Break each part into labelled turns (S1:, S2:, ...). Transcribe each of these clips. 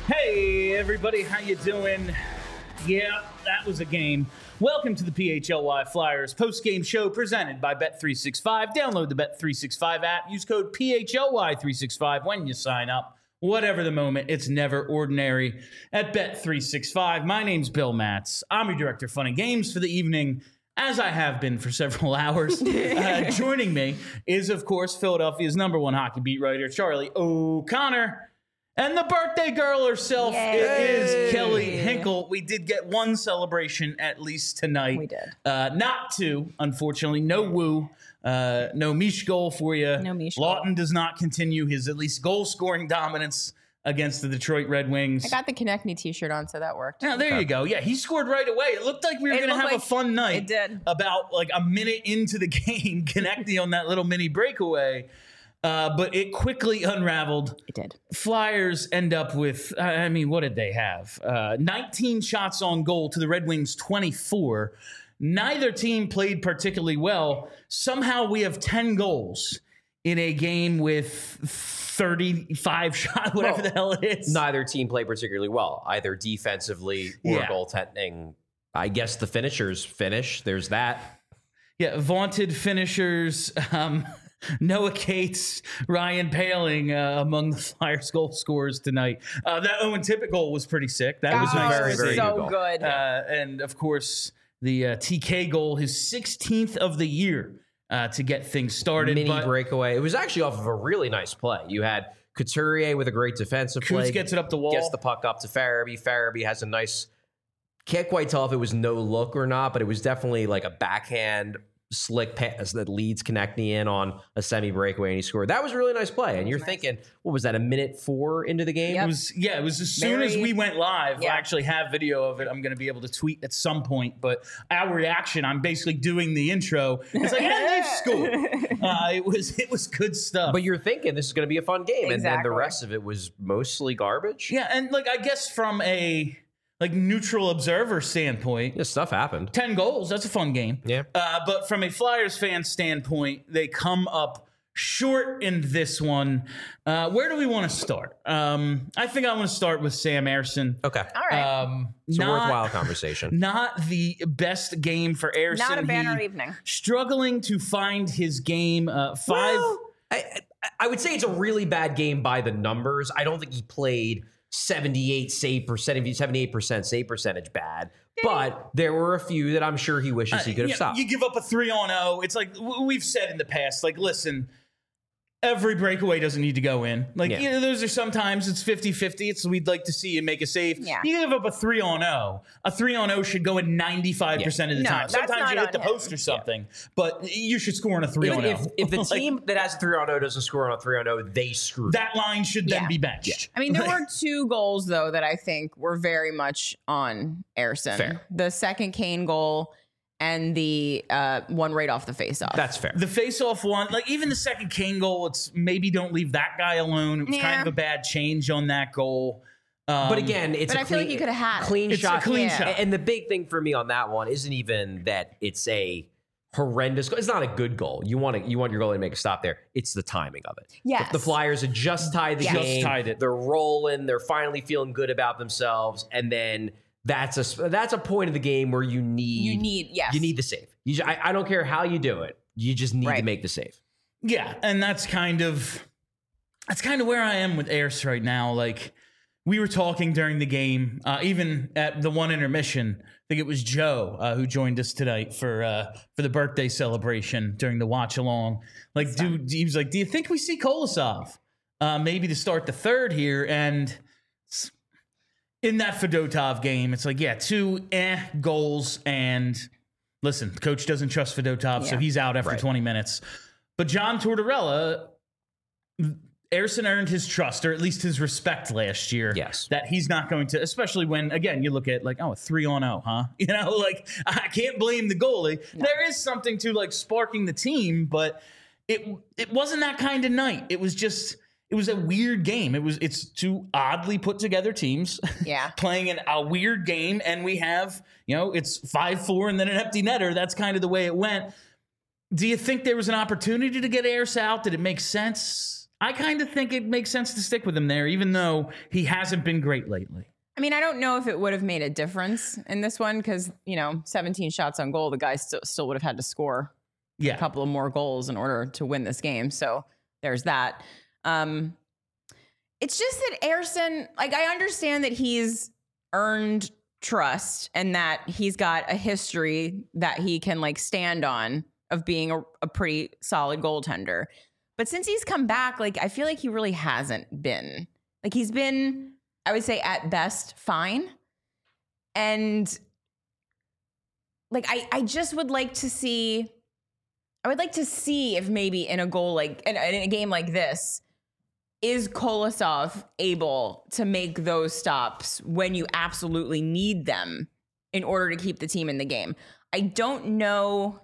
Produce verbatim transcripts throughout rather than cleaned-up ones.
S1: Hey everybody, how you doing? Yeah, that was a game. Welcome to the P H L Y Flyers post-game show presented by Bet three sixty-five. Download the Bet three sixty-five app. Use code P H L Y three sixty-five when you sign up. Whatever the moment, it's never ordinary at Bet three sixty-five. My name's Bill Matz. I'm your director of fun and games for the evening, as I have been for several hours. Uh, joining me is, of course, Philadelphia's number one hockey beat writer, Charlie O'Connor. And the birthday girl herself
S2: Yay.
S1: is Kelly Hinkle. We did get one celebration at least tonight.
S2: We did.
S1: Uh, not two, unfortunately. No woo. Uh, no Mish goal for you.
S2: No Mish goal.
S1: Lawton does not continue his at least goal-scoring dominance against the Detroit Red Wings.
S2: I got the Connect Me t-shirt on, so that worked.
S1: Now, there
S3: Okay.
S1: you go. Yeah, he scored right away. It looked like we were
S2: It
S1: going to
S2: looked
S1: have
S2: like-
S1: a fun night.
S2: it did.
S1: About like a minute into the game, connecting on that little mini breakaway. Uh, but it quickly unraveled.
S2: It did.
S1: Flyers end up with, I mean, what did they have? Uh, nineteen shots on goal to the Red Wings twenty-four. Neither team played particularly well. Somehow we have ten goals in a game with thirty-five shots, whatever
S3: Well,
S1: the hell it is.
S3: Neither team played particularly well, either defensively or
S1: Yeah.
S3: goaltending. I guess the finishers finish. There's that.
S1: Yeah, vaunted finishers. Um, Noah Cates, Ryan Paling uh, among the Flyers goal scorers tonight. Uh, that Owen Tippett goal was pretty sick. That was
S2: Oh,
S1: nice
S3: very,
S1: to
S3: very
S1: see.
S2: so
S3: good goal.
S2: good.
S1: Uh, and of course, the uh, T K goal, his sixteenth of the year uh, to get things started.
S3: Mini
S1: but
S3: breakaway. It was actually off of a really nice play. You had Couturier with a great defensive play.
S1: Coots gets it up the wall.
S3: Gets the puck up to Farabee. Farabee has a nice, can't quite tell if it was no look or not, but it was definitely like a backhand slick pass that leads Konechny in on a semi breakaway, and he scored. That was a really nice play. And you're
S2: nice.
S3: thinking, what was that, a minute four into the game?
S1: It was, yeah, it was as soon as
S2: Very-
S1: we went live.
S2: Yeah.
S1: I actually have video of it. I'm going to be able to tweet at some point. But our reaction, I'm basically doing the intro. It's like, yeah, they've scored. Uh, it was it was good stuff.
S3: But you're thinking this is going to be a fun game, and then
S2: Exactly.
S3: the rest of it was mostly garbage.
S1: yeah, and like I guess from a like neutral observer standpoint,
S3: This stuff happened.
S1: ten goals, that's a fun game.
S3: Yeah.
S1: Uh, but from a Flyers fan standpoint, they come up short in this one. Uh, where do we want to start? Um, I think I want to start with Sam Ersson.
S3: Okay.
S2: All right.
S1: Um,
S3: It's a
S1: not,
S3: worthwhile conversation.
S1: Not the best game for Ersson.
S2: Not a banner
S1: He
S2: evening.
S1: Struggling to find his game. Uh, five.
S3: Well, I, I, I would say it's a really bad game by the numbers. I don't think he played seventy-eight save percent, seventy-eight percent save percentage bad, but there were a few that I'm sure he wishes he could have
S1: you,
S3: stopped.
S1: you give up a three on oh. It's like w- we've said in the past, like, listen, every breakaway doesn't need to go in. Like,
S3: Yeah.
S1: you know, those are sometimes it's fifty-fifty. It's we'd like to see you make a save.
S2: Yeah.
S1: You give up a three on oh. A three on oh should go in ninety-five percent of the
S2: No,
S1: time.
S2: that's
S1: Sometimes
S2: not
S1: you hit
S2: on
S1: the
S2: him.
S1: post or something, but you should score on a three
S3: Even
S1: on
S3: if,
S1: oh.
S3: if the
S1: Like,
S3: team that has a three on oh doesn't score on a three on oh, they screw.
S1: that line should then
S2: Yeah.
S1: be benched.
S2: I mean, there were two goals, though, that I think were very much on Ersson.
S3: Fair.
S2: The second Kane goal and the uh, one right off the faceoff.
S3: That's fair.
S1: The face-off one, like even the second Kane goal, it's maybe don't leave that guy alone. It was kind
S2: Yeah.
S1: of a bad change on that goal. Um,
S3: but again, it's
S2: but
S3: a
S2: I feel
S3: clean,
S2: like you could have had it.
S3: clean
S1: It's a
S3: shot.
S1: clean
S2: Yeah.
S1: shot.
S3: And the big thing for me on that one isn't even that it's a horrendous goal. It's not a good goal. You want to you want your goalie to make a stop there. It's the timing of it.
S2: Yes.
S3: The, the Flyers had just tied the
S2: Yes.
S1: Just
S3: game.
S1: tied it.
S3: They're rolling. They're finally feeling good about themselves, and then that's a that's a point of the game where you need
S2: You need, yes.
S3: you need the save. You, ju- I, I don't care how you do it. You just need to
S2: Right.
S3: make the save.
S1: Yeah, and that's kind of that's kind of where I am with Ayers right now. Like we were talking during the game, uh, even at the one intermission. I think it was Joe uh, who joined us tonight for uh, for the birthday celebration during the watch along. Like, dude, he was like, "Do you think we see Kolosov uh, maybe to start the third here?" And s- in that Fedotov game, it's like, yeah, two eh goals and. Listen, the coach doesn't trust Fedotov, so
S2: Yeah.
S1: he's out after
S3: Right.
S1: twenty minutes. But John Tortorella, Ersson earned his trust, or at least his respect last year.
S3: Yes.
S1: That he's not going to, especially when, again, you look at like, oh, a three on oh, huh? You know, like, I can't blame the goalie. There is something to like sparking the team, but it it wasn't that kind of night. It was just, it was a weird game. It was, it's two oddly put together teams.
S2: Yeah.
S1: Playing in a weird game, and we have, you know, it's five four and then an empty netter. That's kind of the way it went. Do you think there was an opportunity to get Ayers out? Did it make sense? I kind of think it makes sense to stick with him there, even though he hasn't been great lately.
S2: I mean, I don't know if it would have made a difference in this one because, you know, seventeen shots on goal, the guy still, still would have had to score
S1: Yeah.
S2: a couple of more goals in order to win this game. So there's that. Um, it's just that Ersson, like, I understand that he's earned trust and that he's got a history that he can, like, stand on of being a, a pretty solid goaltender. But since he's come back, like, I feel like he really hasn't been. Like, he's been, I would say, at best, fine. And, like, I, I just would like to see, I would like to see if maybe in a goal like, in, in a game like this, is Kolosov able to make those stops when you absolutely need them in order to keep the team in the game? I don't know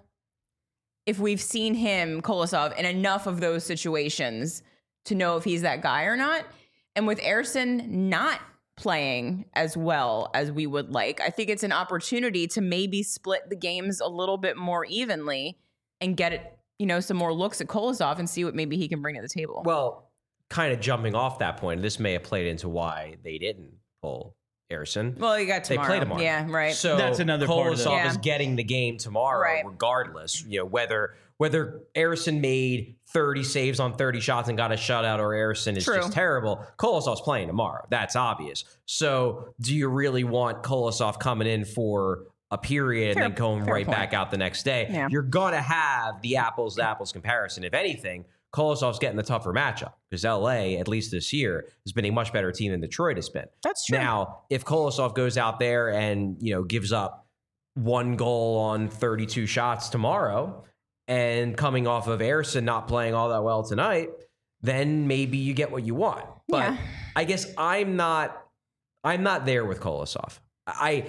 S2: if we've seen him, Kolosov, in enough of those situations to know if he's that guy or not. And with Ersson not playing as well as we would like, I think it's an opportunity to maybe split the games a little bit more evenly and get it, you know, some more looks at Kolosov and see what maybe he can bring to the table.
S3: Well, kind of jumping off that point, this may have played into why they didn't pull Ersson.
S2: Well, you got tomorrow.
S3: They play tomorrow.
S2: Yeah, right.
S3: So
S1: That's another part of it.
S3: Kolosov
S2: Yeah.
S3: is getting the game tomorrow,
S2: Right.
S3: regardless. You know, whether whether Ersson made thirty saves on thirty shots and got a shutout, or Ersson is
S2: True.
S3: just terrible. Kolosov's playing tomorrow. That's obvious. So, do you really want Kolosov coming in for a period
S2: Fair-
S3: and then going
S2: fair
S3: right
S2: point.
S3: back out the next day?
S2: Yeah.
S3: You're gonna have the apples to apples comparison. If anything, Kolosov's getting the tougher matchup because L A, at least this year, has been a much better team than Detroit has been.
S2: That's true.
S3: Now, if Kolosov goes out there and, you know, gives up one goal on thirty-two shots tomorrow and coming off of Ersson not playing all that well tonight, then maybe you get what you want. But
S2: Yeah.
S3: I guess I'm not I'm not there with Kolosov. I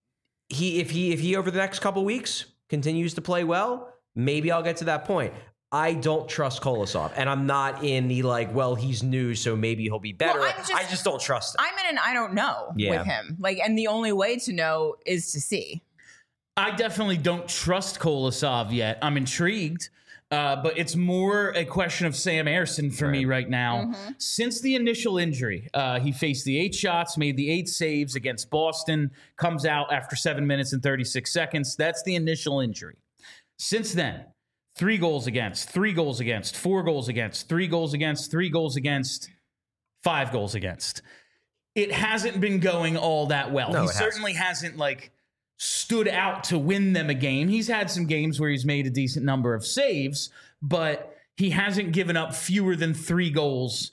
S3: he if he if he over the next couple weeks continues to play well, maybe I'll get to that point. I don't trust Kolosov, and I'm not in the like, well, he's new, so maybe he'll be better.
S2: Well, I'm just-
S3: I just don't trust him.
S2: I'm in an I don't know
S3: Yeah.
S2: with him. Like, and the only way to know is to see.
S1: I definitely don't trust Kolosov yet. I'm intrigued, uh, but it's more a question of Sam Ersson for me right now. Since the initial injury, uh, he faced the eight shots, made the eight saves against Boston, comes out after seven minutes and thirty-six seconds. That's the initial injury. Since then, three goals against, three goals against, four goals against, three goals against, three goals against, five goals against. It hasn't been going all that well.
S3: No,
S1: he
S3: it hasn't.
S1: certainly hasn't like stood out to win them a game. He's had some games where he's made a decent number of saves, but he hasn't given up fewer than three goals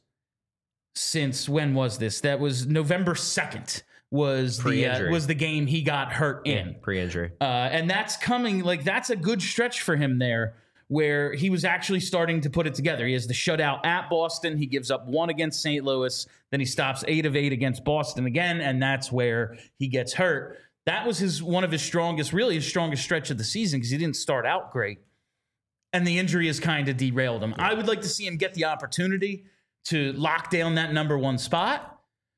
S1: since when was this? That was November second was the uh,
S3: Pre-injury.
S1: was the game he got hurt in.
S3: Pre-injury.
S1: Uh, and that's coming, like, that's a good stretch for him there where he was actually starting to put it together. He has the shutout at Boston. He gives up one against Saint Louis. Then he stops eight of eight against Boston again, and that's where he gets hurt. That was his one of his strongest, really his strongest stretch of the season because he didn't start out great. And the injury has kind of derailed him. I would like to see him get the opportunity to lock down that number one spot.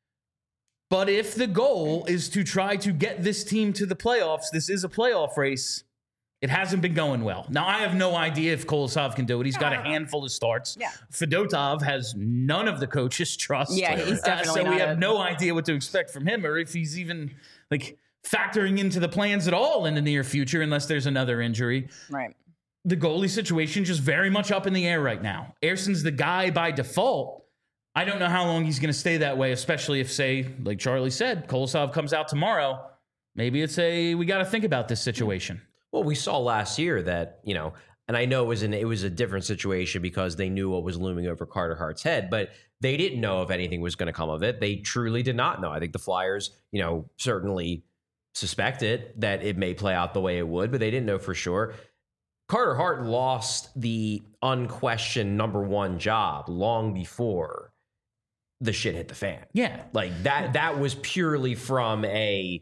S1: But if the goal is to try to get this team to the playoffs, this is a playoff race. It hasn't been going well. Now, I have no idea if Kolosov can do it. He's got a handful of starts.
S2: Yeah.
S1: Fedotov has none of the coaches' trust.
S2: Yeah, he's
S1: Uh,
S2: definitely
S1: so we
S2: not
S1: have
S2: a-
S1: no idea what to expect from him or if he's even like factoring into the plans at all in the near future unless there's another injury.
S2: Right.
S1: The goalie situation just very much up in the air right now. Erson's the guy by default. I don't know how long he's going to stay that way, especially if, say, like Charlie said, Kolosov comes out tomorrow. Maybe it's a, we got to think about this situation.
S3: Well, we saw last year that, you know, and I know it was an it was a different situation because they knew what was looming over Carter Hart's head, but they didn't know if anything was going to come of it. They truly did not know. I think the Flyers, you know, certainly suspected that it may play out the way it would, but they didn't know for sure. Carter Hart lost the unquestioned number one job long before the shit hit the fan.
S1: Yeah.
S3: Like that that was purely from a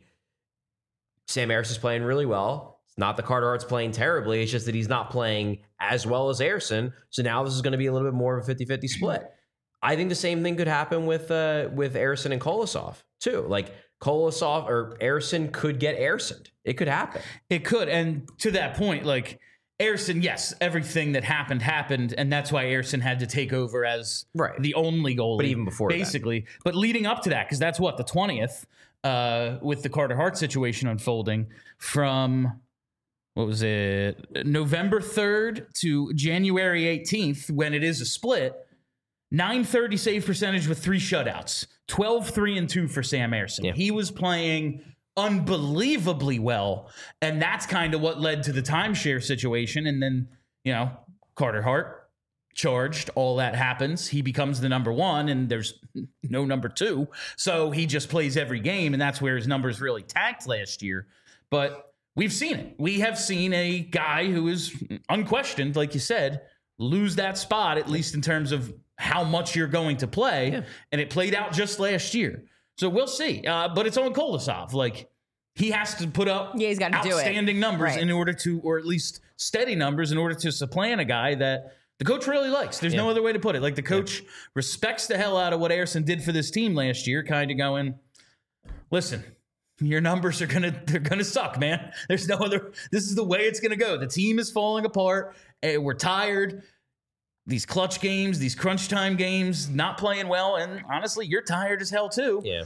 S3: Sam Ersson is playing really well. It's not that Carter Hart's playing terribly. It's just that he's not playing as well as Ersson. So now this is going to be a little bit more of a fifty-fifty split. I think the same thing could happen with uh, with Ersson and Kolosov too. Like Kolosov or Ersson could get Erssoned. It could happen.
S1: It could. And to that point, like Airson, yes, everything that happened happened, and that's why Airson had to take over as
S3: Right.
S1: the only goalie.
S3: But even before that.
S1: basically, but leading up to that, because that's what the twentieth, uh, with the Carter Hart situation unfolding from what was it, November third to January eighteenth, when it is a split. nine thirty save percentage with three shutouts, twelve three and two for Sam Airson.
S3: Yeah.
S1: He was playing unbelievably well, and that's kind of what led to the timeshare situation. And then, you know, Carter Hart charged, all that happens. He becomes the number one, and there's no number two. So he just plays every game, and that's where his numbers really tanked last year. But we've seen it. We have seen a guy who is unquestioned, like you said, lose that spot, at least in terms of how much you're going to play.
S3: Yeah.
S1: And it played out just last year. So we'll see. Uh, but it's on Kolosov. Like, he has to put up
S2: Yeah, he's gotta do it.
S1: outstanding numbers
S2: Right.
S1: in order to, or at least steady numbers in order to supplant a guy that the coach really likes. There's no
S3: Yeah.
S1: other way to put it. Like, the coach respects the hell out of what Airson did for this team last year, kind of going, listen, your numbers are gonna they're gonna suck, man. There's no other. This is the way it's gonna go. The team is falling apart. And we're tired. These clutch games, these crunch time games, not playing well, and honestly, you're tired as hell too.
S3: Yeah.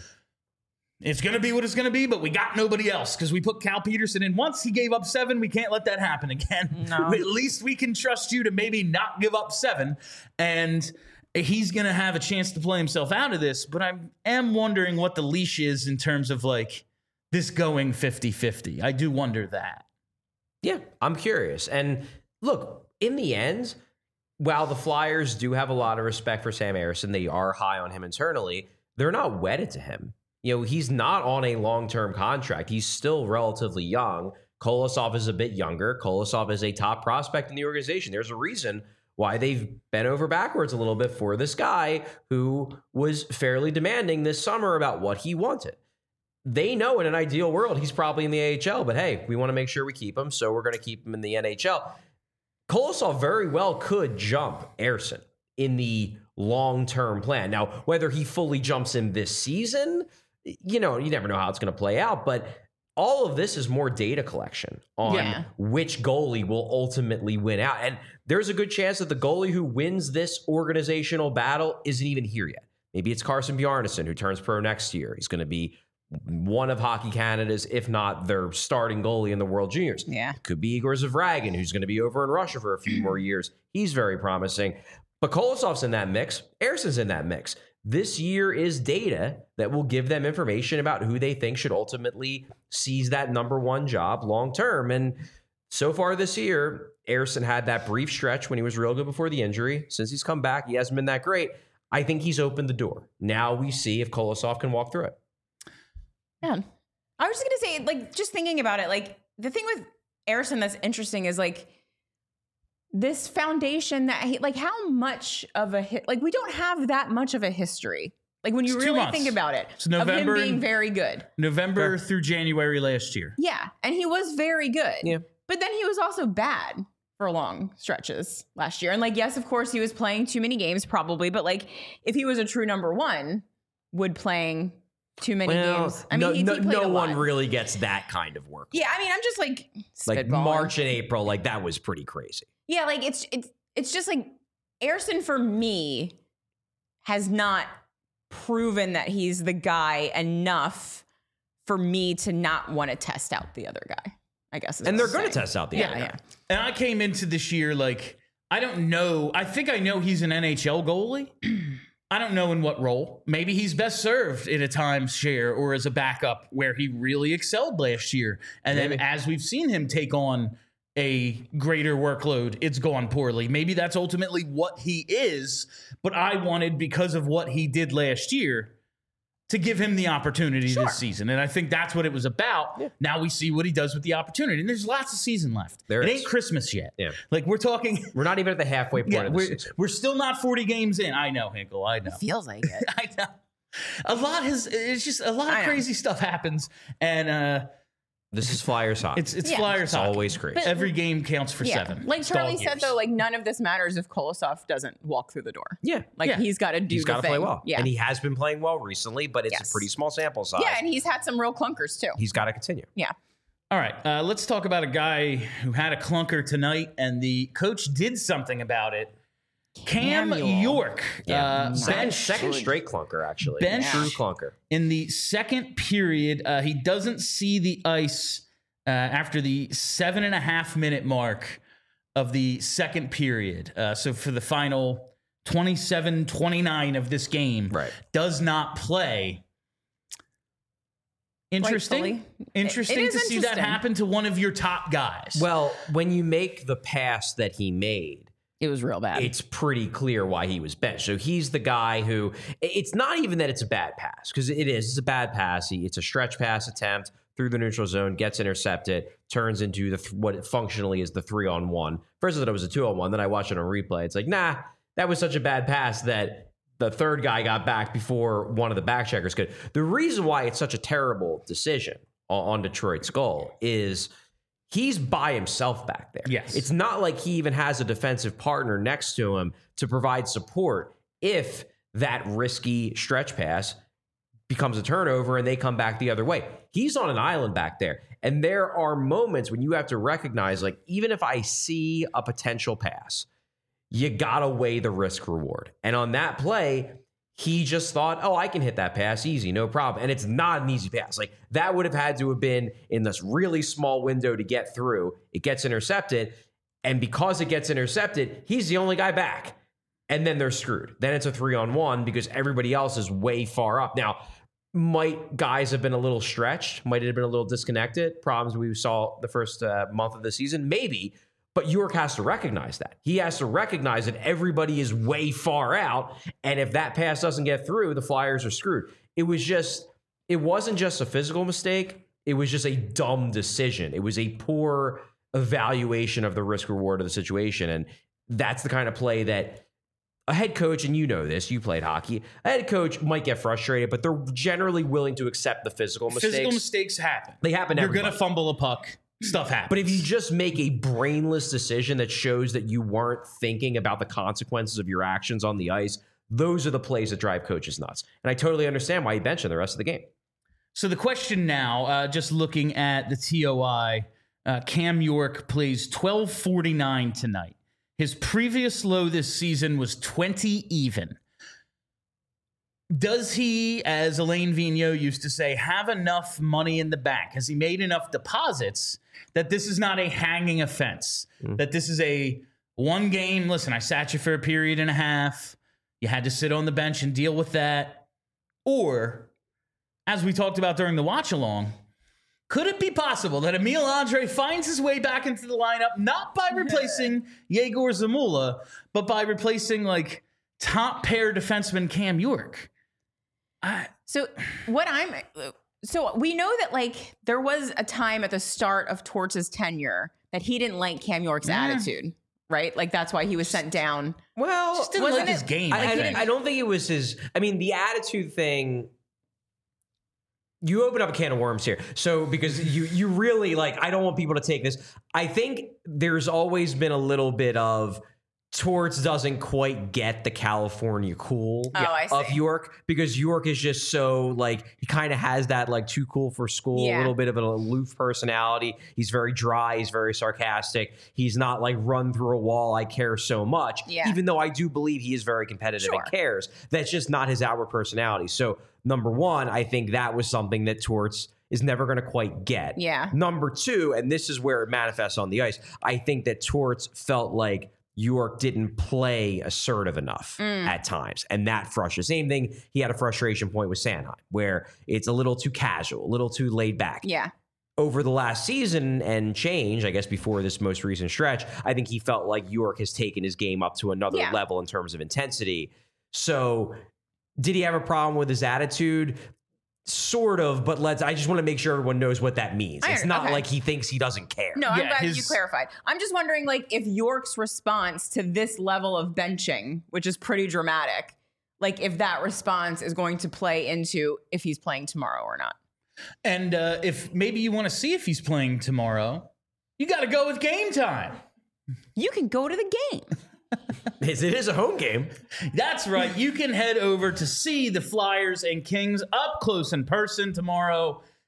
S1: It's gonna be what it's gonna be, but we got nobody else because we put Cal Peterson in once. He gave up seven. We can't let that happen again.
S2: No.
S1: At least we can trust you to maybe not give up seven, and he's gonna have a chance to play himself out of this. But I am wondering what the leash is in terms of like this going fifty-fifty. I do wonder that.
S3: Yeah, I'm curious. And look, in the end, while the Flyers do have a lot of respect for Sam Airson, they are high on him internally, they're not wedded to him. You know, he's not on a long-term contract. He's still relatively young. Kolosov is a bit younger. Kolosov is a top prospect in the organization. There's a reason why they've bent over backwards a little bit for this guy who was fairly demanding this summer about what he wanted. They know in an ideal world, he's probably in the A H L, but hey, we want to make sure we keep him, so we're going to keep him in the N H L. Kolosov very well could jump Airson in the long-term plan. Now, whether he fully jumps him this season, you know, you never know how it's going to play out, but all of this is more data collection on
S2: Yeah.
S3: which goalie will ultimately win out. And there's a good chance that the goalie who wins this organizational battle isn't even here yet. Maybe it's Carson Bjarnason, who turns pro next year. He's going to be one of Hockey Canada's, if not their starting goalie in the World Juniors.
S2: Yeah.
S3: It could be Igor Zavragin, who's going to be over in Russia for a few more years. He's very promising. But Kolosov's in that mix. Airson's in that mix. This year is data that will give them information about who they think should ultimately seize that number one job long term. And so far this year, Airson had that brief stretch when he was real good before the injury. Since he's come back, he hasn't been that great. I think he's opened the door. Now we see if Kolosov can walk through it.
S2: Yeah. I was just going to say, like, just thinking about it, like, the thing with Airson that's interesting is, like, this foundation that, he, like, how much of a hit, like, we don't have that much of a history. Like, when you
S1: It's two
S2: really
S1: months.
S2: think about it,
S1: It's November
S2: of him being
S1: and-
S2: very good.
S1: November through January last year.
S2: Yeah. And he was very good.
S3: Yeah.
S2: But then he was also bad for long stretches last year. And, like, yes, of course, he was playing too many games, probably. But, like, if he was a true number one, would playing too many games. I mean,
S3: no,
S2: he,
S3: no,
S2: he played
S3: no
S2: a
S3: one
S2: lot.
S3: really gets that kind of work.
S2: Yeah, I mean, I'm just like
S3: Like
S2: spitballing.
S3: March and April, like that was pretty crazy.
S2: Yeah, like it's it's it's just like Airson for me has not proven that he's the guy enough for me to not want to test out the other guy. I guess. Is
S3: And
S2: what
S3: they're
S2: I'm
S3: going to
S2: saying.
S3: test out the
S2: Yeah,
S3: other
S2: yeah.
S3: guy.
S1: And I came into this year like, I don't know. I think I know he's an N H L goalie. I don't know in what role. Maybe he's best served in a times share or as a backup where he really excelled last year. And
S3: Maybe.
S1: then as we've seen him take on a greater workload, it's gone poorly. Maybe that's ultimately what he is. But I wanted, because of what he did last year, to give him the opportunity
S2: Sure.
S1: this season. And I think that's what it was about.
S3: Yeah.
S1: Now we see what he does with the opportunity. And there's lots of season left.
S3: There
S1: it
S3: is.
S1: ain't Christmas yet.
S3: Yeah.
S1: Like we're talking,
S3: We're not even at the halfway point
S1: yeah,
S3: of the
S1: we're,
S3: season.
S1: we're still not forty games in. I know, Hinkle. I know.
S2: Feels like it.
S1: I know. A lot has, it's just a lot
S2: I
S1: of
S2: know.
S1: crazy stuff happens. And uh,
S3: This is Flyers hockey.
S1: it's, it's
S2: Yeah.
S1: Flyers
S3: It's
S1: hockey.
S3: always crazy.
S2: But-
S1: Every game counts for
S2: Yeah.
S1: seven.
S2: Like
S1: It's
S2: Charlie
S1: dog
S2: said,
S1: years.
S2: though, like none of this matters if Kolosov doesn't walk through the door.
S3: yeah.
S2: Like
S1: Yeah.
S2: he's got to do
S3: He's
S2: the
S3: got to
S2: thing.
S3: play well.
S2: Yeah.
S3: And he has been playing well recently, but it's
S2: Yes.
S3: a pretty small sample size.
S2: yeah, and he's had some real clunkers too.
S3: He's got to continue.
S2: Yeah.
S1: All right, uh, let's talk about a guy who had a clunker tonight, and the coach did something about it. Cam
S2: Camule.
S1: York, uh,
S3: second,
S1: bench
S3: second straight clunker, actually.
S1: Bench.
S3: True clunker.
S1: in the second period. Uh, he doesn't see the ice uh, after the seven and a half minute mark of the second period. Uh, so for the final twenty-seven twenty-nine of this game,
S3: Right.
S1: does not play. Interesting.
S2: Rightfully.
S1: Interesting
S2: It- it is
S1: to see that
S2: interesting.
S1: happen to one of your top guys.
S3: Well, when you make the pass that he made,
S2: It was real bad.
S3: it's pretty clear why he was benched. So he's the guy who, it's not even that it's a bad pass, because it is. It's a bad pass. He, it's a stretch pass attempt through the neutral zone, gets intercepted, turns into the what functionally is the three on one. First I thought it was a two on one. Then I watched it on replay. It's like, nah, that was such a bad pass that the third guy got back before one of the back checkers could. The reason why it's such a terrible decision on, on Detroit's goal is he's by himself back there.
S1: Yes.
S3: It's not like he even has a defensive partner next to him to provide support if that risky stretch pass becomes a turnover and they come back the other way. He's on an island back there. And there are moments when you have to recognize, like, even if I see a potential pass, you gotta weigh the risk reward. And on that play, he just thought, oh, I can hit that pass easy, no problem. And it's not an easy pass. Like, that would have had to have been in this really small window to get through. It gets intercepted. And because it gets intercepted, he's the only guy back. And then they're screwed. Then it's a three on one because everybody else is way far up. Now, might guys have been a little stretched? Might have been a little disconnected? Problems we saw the first uh, month of the season? Maybe. But York has to recognize that. He has to recognize that everybody is way far out. And if that pass doesn't get through, the Flyers are screwed. It was just, it wasn't just a physical mistake. It was just a dumb decision. It was a poor evaluation of the risk reward of the situation. And that's the kind of play that a head coach, and you know this, you played hockey, a head coach might get frustrated, but they're generally willing to accept the physical mistakes.
S1: Physical mistakes happen.
S3: They happen to
S1: You're
S3: everybody.
S1: going to fumble a puck. Stuff happens.
S3: But if you just make a brainless decision that shows that you weren't thinking about the consequences of your actions on the ice, those are the plays that drive coaches nuts. And I totally understand why he benched him the rest of the game.
S1: So the question now, uh, just looking at the T O I, uh, Cam York plays twelve forty-nine tonight. His previous low this season was twenty even. Does he, as Elaine Vigneault used to say, have enough money in the bank? Has he made enough deposits that this is not a hanging offense? Mm. That this is a one game, listen, I sat you for a period and a half. You had to sit on the bench and deal with that. Or, as we talked about during the watch along, could it be possible that Emil Andre finds his way back into the lineup, not by replacing Yegor Zamula, but by replacing like top pair defenseman Cam York? I,
S2: so what I'm, so we know that like there was a time at the start of Torts' tenure that he didn't like Cam York's
S1: Yeah.
S2: attitude, right? Like that's why he was sent down.
S3: Well,
S1: just didn't
S2: wasn't
S1: like his
S2: it-
S1: game.
S3: I,
S1: I,
S3: I,
S1: think.
S3: I don't think it was his. I mean, the attitude thing. You open up a can of worms here. So because you you really like, I don't want people to take this. I think there's always been a little bit of Torts doesn't quite get the California cool
S2: Oh, I
S3: of
S2: see.
S3: York, because York is just so like, he kind of has that like too cool for school, a
S2: Yeah.
S3: little bit of an aloof personality. He's very dry. He's very sarcastic. He's not like run through a wall. I care so much.
S2: Yeah.
S3: Even though I do believe he is very competitive
S2: Sure.
S3: and cares. That's just not his outward personality. So number one, I think that was something that Torts is never going to quite get.
S2: Yeah.
S3: Number two, and this is where it manifests on the ice, I think that Torts felt like York didn't play assertive enough
S2: Mm.
S3: at times. And that frustrated. Same thing, he had a frustration point with Sanheim, where it's a little too casual, a little too laid back.
S2: Yeah.
S3: Over the last season and change, I guess before this most recent stretch, I think he felt like York has taken his game up to another
S2: Yeah.
S3: level in terms of intensity. So did he have a problem with his attitude? Sort of, but let's, I just want to make sure everyone knows what that means.
S2: I
S3: It's
S2: under-
S3: not
S2: okay.
S3: like he thinks he doesn't care.
S2: No, I'm
S1: Yeah,
S2: glad
S1: his-
S2: you clarified. I'm just wondering, like, if York's response to this level of benching, which is pretty dramatic, like if that response is going to play into if he's playing tomorrow or not.
S1: And uh, if maybe you want to see if he's playing tomorrow, you got to go with Game Time.
S2: You can go to the game.
S3: It is a home game.
S1: That's right. You can head over to see the Flyers and Kings up close in person tomorrow.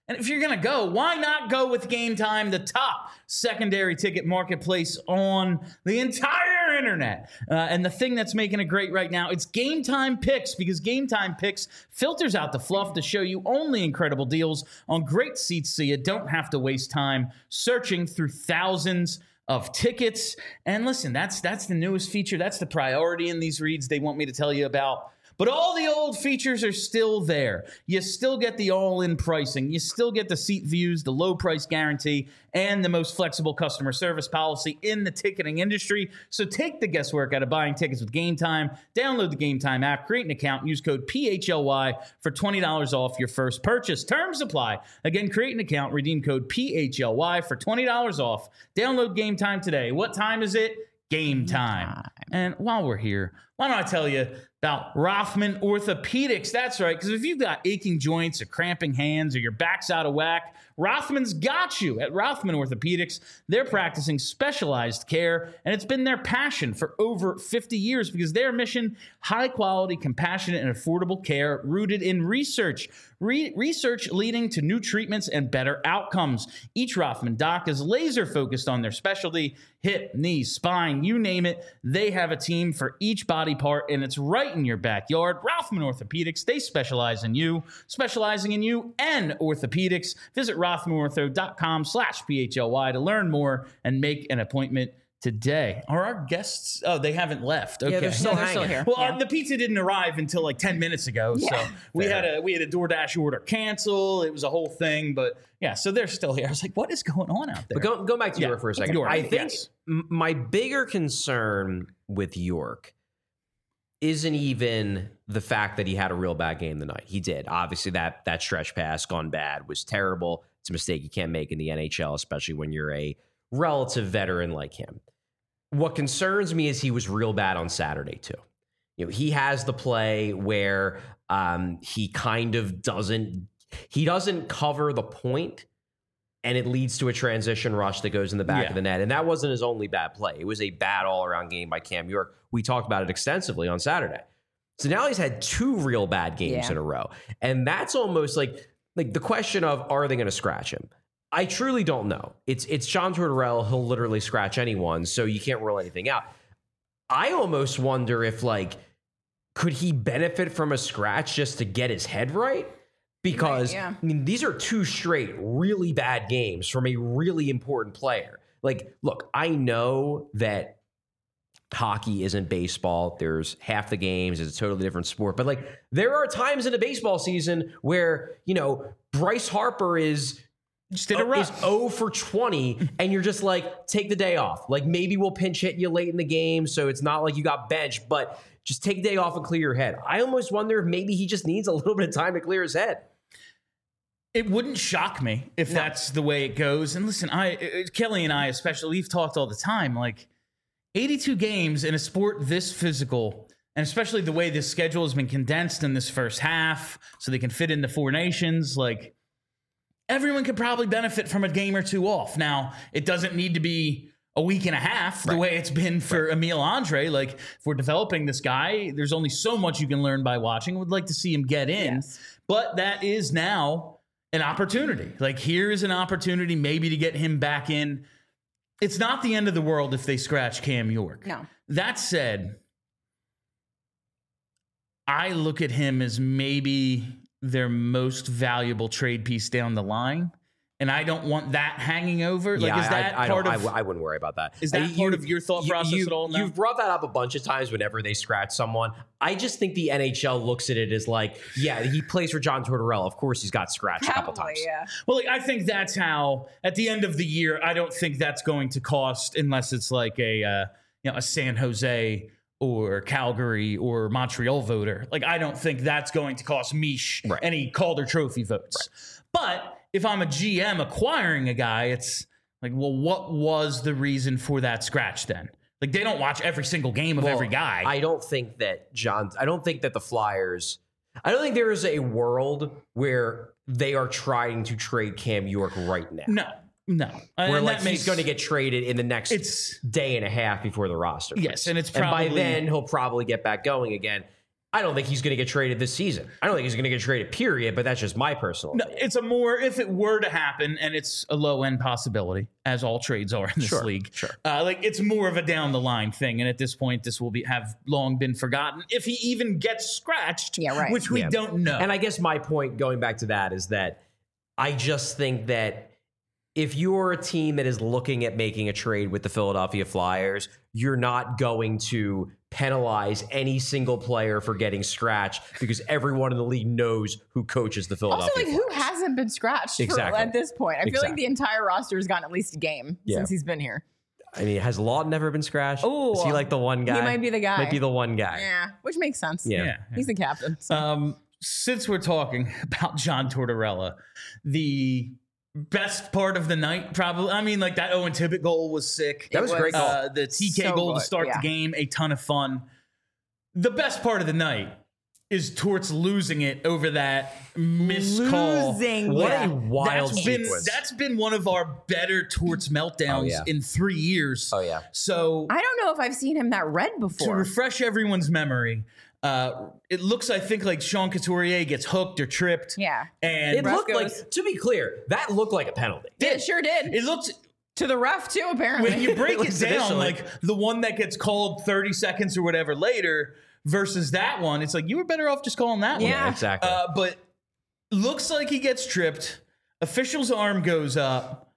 S1: And if you're going to go, why not go with Game Time, the top secondary ticket marketplace on the entire internet? Uh, and the thing that's making it great right now, it's Game Time Picks, because Game Time Picks filters out the fluff to show you only incredible deals on great seats so you don't have to waste time searching through thousands of tickets. And listen, that's that's the newest feature. That's the priority in these reads they want me to tell you about. But all the old features are still there. You still get the all-in pricing. You still get the seat views, the low price guarantee, and the most flexible customer service policy in the ticketing industry. So take the guesswork out of buying tickets with Game Time. Download the Game Time app, create an account, and use code P H L Y for twenty dollars off your first purchase. Terms apply. Again, create an account, redeem code P H L Y for twenty dollars off. Download Game Time today. What time is it? Game time. And while we're here, why don't I tell you about Rothman Orthopedics? That's right, because if you've got aching joints or cramping hands or your back's out of whack, Rothman's got you. At Rothman Orthopedics, they're practicing specialized care, and it's been their passion for over fifty years because their mission, high-quality, compassionate, and affordable care rooted in research. Re- research leading to new treatments and better outcomes. Each Rothman doc is laser-focused on their specialty, hip, knee, spine, you name it. They have a team for each body part, and it's right in your backyard. Rothman Orthopedics, they specialize in you, specializing in you and orthopedics. Visit rothmanortho.com slash PHLY to learn more and make an appointment today. Are our guests? Oh, they haven't left. Okay,
S3: Yeah, they're still,
S2: No, they're still
S3: hanging.
S2: here.
S1: well,
S2: Yeah.
S1: uh, the pizza didn't arrive until like ten minutes ago, so
S2: Yeah.
S1: we
S3: Fair.
S1: had a we had a DoorDash order cancel. It was a whole thing, but yeah, so they're still here. I was like, what is going on out there?
S3: But go, go back to
S1: Yeah,
S3: York for a second.
S1: York,
S3: I think
S1: yes.
S3: m- my bigger concern with York isn't even the fact that he had a real bad game tonight. He did. Obviously, that that stretch pass gone bad was terrible. It's a mistake you can't make in the N H L, especially when you're a relative veteran like him. What concerns me is he was real bad on Saturday, too. You know, he has the play where um, he kind of doesn't, he doesn't cover the point, and it leads to a transition rush that goes in the back
S1: Yeah.
S3: of the net. And that wasn't his only bad play. It was a bad all-around game by Cam York. We talked about it extensively on Saturday. So now he's had two real bad games
S2: Yeah.
S3: in a row. And that's almost like, like the question of, are they going to scratch him? I truly don't know. It's it's John Tortorella. He'll literally scratch anyone, so you can't rule anything out. I almost wonder if, like, could he benefit from a scratch just to get his head right? Because,
S2: Right, yeah.
S3: I mean, these are two straight really bad games from a really important player. Like, look, I know that hockey isn't baseball. There's half the games. It's a totally different sport. But, like, there are times in a baseball season where, you know, Bryce Harper is
S1: Just did a
S3: is
S1: rough.
S3: zero for twenty, and you're just like, take the day off. Like, maybe we'll pinch hit you late in the game, so it's not like you got benched, but just take a day off and clear your head. I almost wonder if maybe he just needs a little bit of time to clear his head.
S1: It wouldn't shock me if that's the way it goes. And listen, I uh, Kelly and I especially, we've talked all the time, like eighty-two games in a sport this physical, and especially the way this schedule has been condensed in this first half so they can fit in the four nations, like everyone could probably benefit from a game or two off. Now, it doesn't need to be a week and a half the
S3: Right.
S1: way it's been for Emile Andre. Like, if we're developing this guy, there's only so much you can learn by watching. I would like to see him get in.
S2: Yes.
S1: But that is now an opportunity. Like, here's an opportunity maybe to get him back in. It's not the end of the world if they scratch Cam York.
S2: No.
S1: That said, I look at him as maybe their most valuable trade piece down the line, and I don't want that hanging over. Like,
S3: yeah,
S1: is that
S3: I, I,
S1: part
S3: don't,
S1: of?
S3: I, I wouldn't worry about that.
S1: Is that
S3: Uh,
S1: part
S3: you-
S1: of your thought
S3: you-
S1: process
S3: you-
S1: at all now?
S3: You've brought that up a bunch of times whenever they scratch someone. I just think the N H L looks at it as like, yeah, he plays for John Tortorella. Of course, he's got scratched a couple
S2: Probably,
S3: times.
S2: yeah.
S1: Well, like, I think that's how at the end of the year, I don't think that's going to cost unless it's like a uh, you know a San Jose or Calgary or Montreal voter. Like, I don't think that's going to cost Mish
S3: Right.
S1: any Calder Trophy votes. But if I'm a G M acquiring a guy, it's like, well, what was the reason for that scratch then? Like, they don't watch every single game of
S3: Well,
S1: every guy.
S3: I don't think that John, I don't think that the Flyers, I don't think there is a world where they are trying to trade Cam York right now.
S1: no, no.
S3: Where
S1: And
S3: like
S1: that makes-
S3: he's going to get traded in the next
S1: It's
S3: day and a half before the roster.
S1: Yes,
S3: frees.
S1: and it's
S3: and by
S1: probably-
S3: then he'll probably get back going again. I don't think he's going to get traded this season. I don't think he's going to get traded, period, but that's just my personal
S1: No,
S3: opinion.
S1: it's a more, if it were to happen, and it's a low end possibility, as all trades are in this
S3: Sure,
S1: league.
S3: sure.
S1: Uh, like it's more of a down the line thing, and at this point, this will be have long been forgotten if he even gets scratched.
S2: Yeah, right.
S1: Which we
S3: Yeah.
S1: don't know.
S3: And I guess my point going back to that is that I just think that if you're a team that is looking at making a trade with the Philadelphia Flyers, you're not going to penalize any single player for getting scratched because everyone in the league knows who coaches the Philadelphia
S2: Also, like,
S3: Flyers.
S2: who hasn't been scratched
S3: Exactly.
S2: for, at this point? I feel like
S3: Exactly.
S2: the entire roster has gotten at least a game
S3: Yeah.
S2: since he's been here.
S3: I mean, has Lawton never been scratched?
S2: Ooh.
S3: Is he like the one guy?
S2: He might be the guy.
S3: Might be the one guy.
S2: Yeah, which makes sense.
S3: Yeah.
S1: yeah.
S2: He's the captain. so.
S1: Um, since we're talking about John Tortorella, the best part of the night, probably. I mean, like that Owen Tippett goal was sick.
S3: That was a great goal.
S1: Uh, the T K
S2: So
S1: goal to
S2: good,
S1: start
S2: yeah.
S1: the game, a ton of fun. The best part of the night is Torts losing it over that missed call.
S2: Losing
S3: What
S2: it.
S3: a wild
S1: That's been
S3: sequence.
S1: that's been one of our better Torts meltdowns
S3: Oh, yeah.
S1: in three years.
S3: Oh, yeah.
S1: So
S2: I don't know if I've seen him that red
S1: to
S2: before.
S1: refresh everyone's memory, uh, it looks I think like Sean Couturier gets hooked or tripped.
S2: Yeah.
S1: and
S3: It
S2: Ref
S3: looked
S2: goes-
S3: like, to be clear, that looked like a penalty.
S2: It sure did.
S1: it looked
S2: to the ref, too, apparently.
S1: when you break it
S3: looks
S1: down,
S3: initially-
S1: like the one that gets called thirty seconds or whatever later versus that one, it's like you were better off just calling that
S2: Yeah.
S1: one.
S3: Exactly.
S1: Uh, but looks like he gets tripped. Official's arm goes up.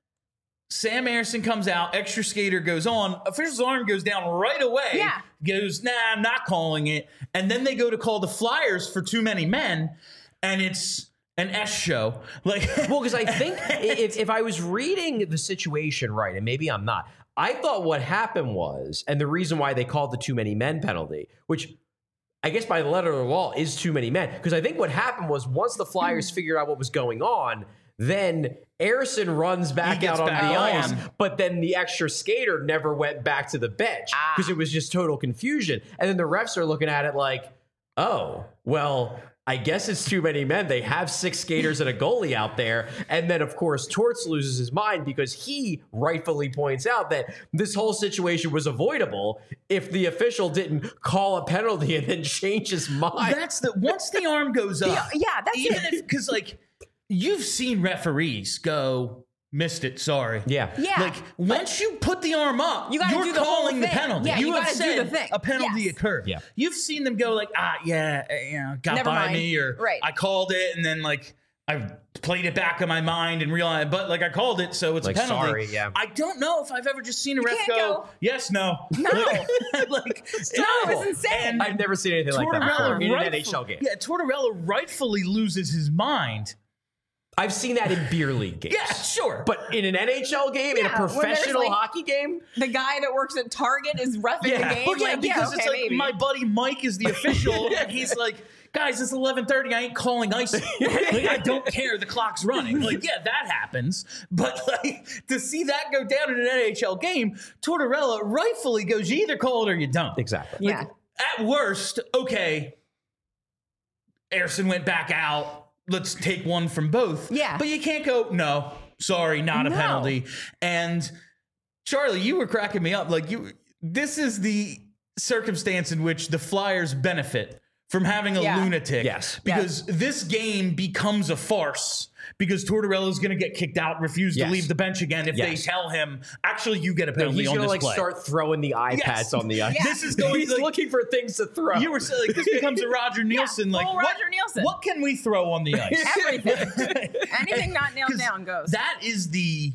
S1: Sam Ersson comes out. Extra skater goes on. Official's arm goes down right away.
S2: Yeah.
S1: Goes, nah, I'm not calling it. And then they go to call the Flyers for too many men, and it's an S show. Like,
S3: Well, because I think if, if I was reading the situation right, and maybe I'm not, I thought what happened was, and the reason why they called the too many men penalty, which I guess by the letter of the law is too many men, because I think what happened was once the Flyers figured out what was going on, then Ersson runs back
S1: He
S3: out
S1: gets
S3: on
S1: back
S3: the
S1: on.
S3: ice, but then the extra skater never went back to the bench because it was just total confusion. And then the refs are looking at it like, oh, well, I guess it's too many men. They have six skaters and a goalie out there. And then, of course, Torts loses his mind because he rightfully points out that this whole situation was avoidable if the official didn't call a penalty and then change his mind.
S1: that's the once the arm goes up.
S2: yeah, that's
S1: even
S2: it.
S1: if because like you've seen referees go missed it. Sorry.
S3: Yeah.
S2: Yeah.
S1: Like once you put the arm up,
S2: You gotta
S1: you're
S2: do the whole
S1: calling the
S2: thing.
S1: penalty.
S2: Yeah,
S1: you,
S2: you
S1: have
S2: gotta do
S1: said
S2: the thing.
S1: a penalty
S2: Yes.
S1: occurred.
S3: Yeah.
S1: You've seen them go like, ah, yeah, eh, you know, got
S2: Never
S1: by
S2: mind.
S1: me, or
S2: Right.
S1: I called it, and then like I played it back in my mind and realized, but like I called it, so it's
S3: Like,
S1: a penalty.
S3: sorry, yeah.
S1: I don't know if I've ever just seen a ref
S2: can't
S1: go,
S2: go,
S1: yes, no,
S2: No.
S1: like, like
S2: No, it's insane.
S1: And
S3: I've never seen anything like that before in an
S1: rightful-
S3: N H L game.
S1: Yeah, Tortorella rightfully loses his mind.
S3: I've seen that in beer league games.
S1: Yeah, sure.
S3: But in an N H L game, in a
S2: Yeah, when there's,
S3: professional
S2: like,
S3: hockey game,
S2: the guy that works at Target is reffing
S3: Yeah.
S2: the game.
S1: Well, yeah,
S2: like,
S1: because
S2: yeah,
S1: it's
S2: okay,
S1: like
S2: maybe.
S1: my buddy Mike is the official, and he's like, guys, it's eleven thirty. I ain't calling ice. Like, I don't care. The clock's running. Like, yeah, that happens. But like to see that go down in an N H L game, Tortorella rightfully goes, you either call it or you don't.
S3: exactly.
S2: yeah.
S1: At worst, okay, Ersson went back out. Let's take one from both.
S2: Yeah.
S1: But you can't go, no, sorry, not a
S2: No.
S1: penalty. And Charlie, you were cracking me up. Like you, this is the circumstance in which the Flyers benefit from having a
S2: Yeah.
S1: lunatic.
S3: Yes.
S1: Because this game becomes a farce because Tortorella is going to get kicked out, refuse
S3: Yes.
S1: to leave the bench again if
S3: Yes.
S1: they tell him, actually, you get a
S3: No,
S1: penalty
S3: he's
S1: on
S3: gonna
S1: this
S3: like
S1: play.
S3: start throwing the iPads
S1: Yes.
S3: on the ice.
S2: Yeah.
S1: This is going
S3: He's
S1: like,
S3: looking for things to throw.
S1: you were saying like this becomes a Roger Nielsen. like
S2: full
S1: what,
S2: Roger Nielsen.
S1: what can we throw on the ice?
S2: Everything. Anything not nailed
S1: 'Cause
S2: down goes.
S1: That is the.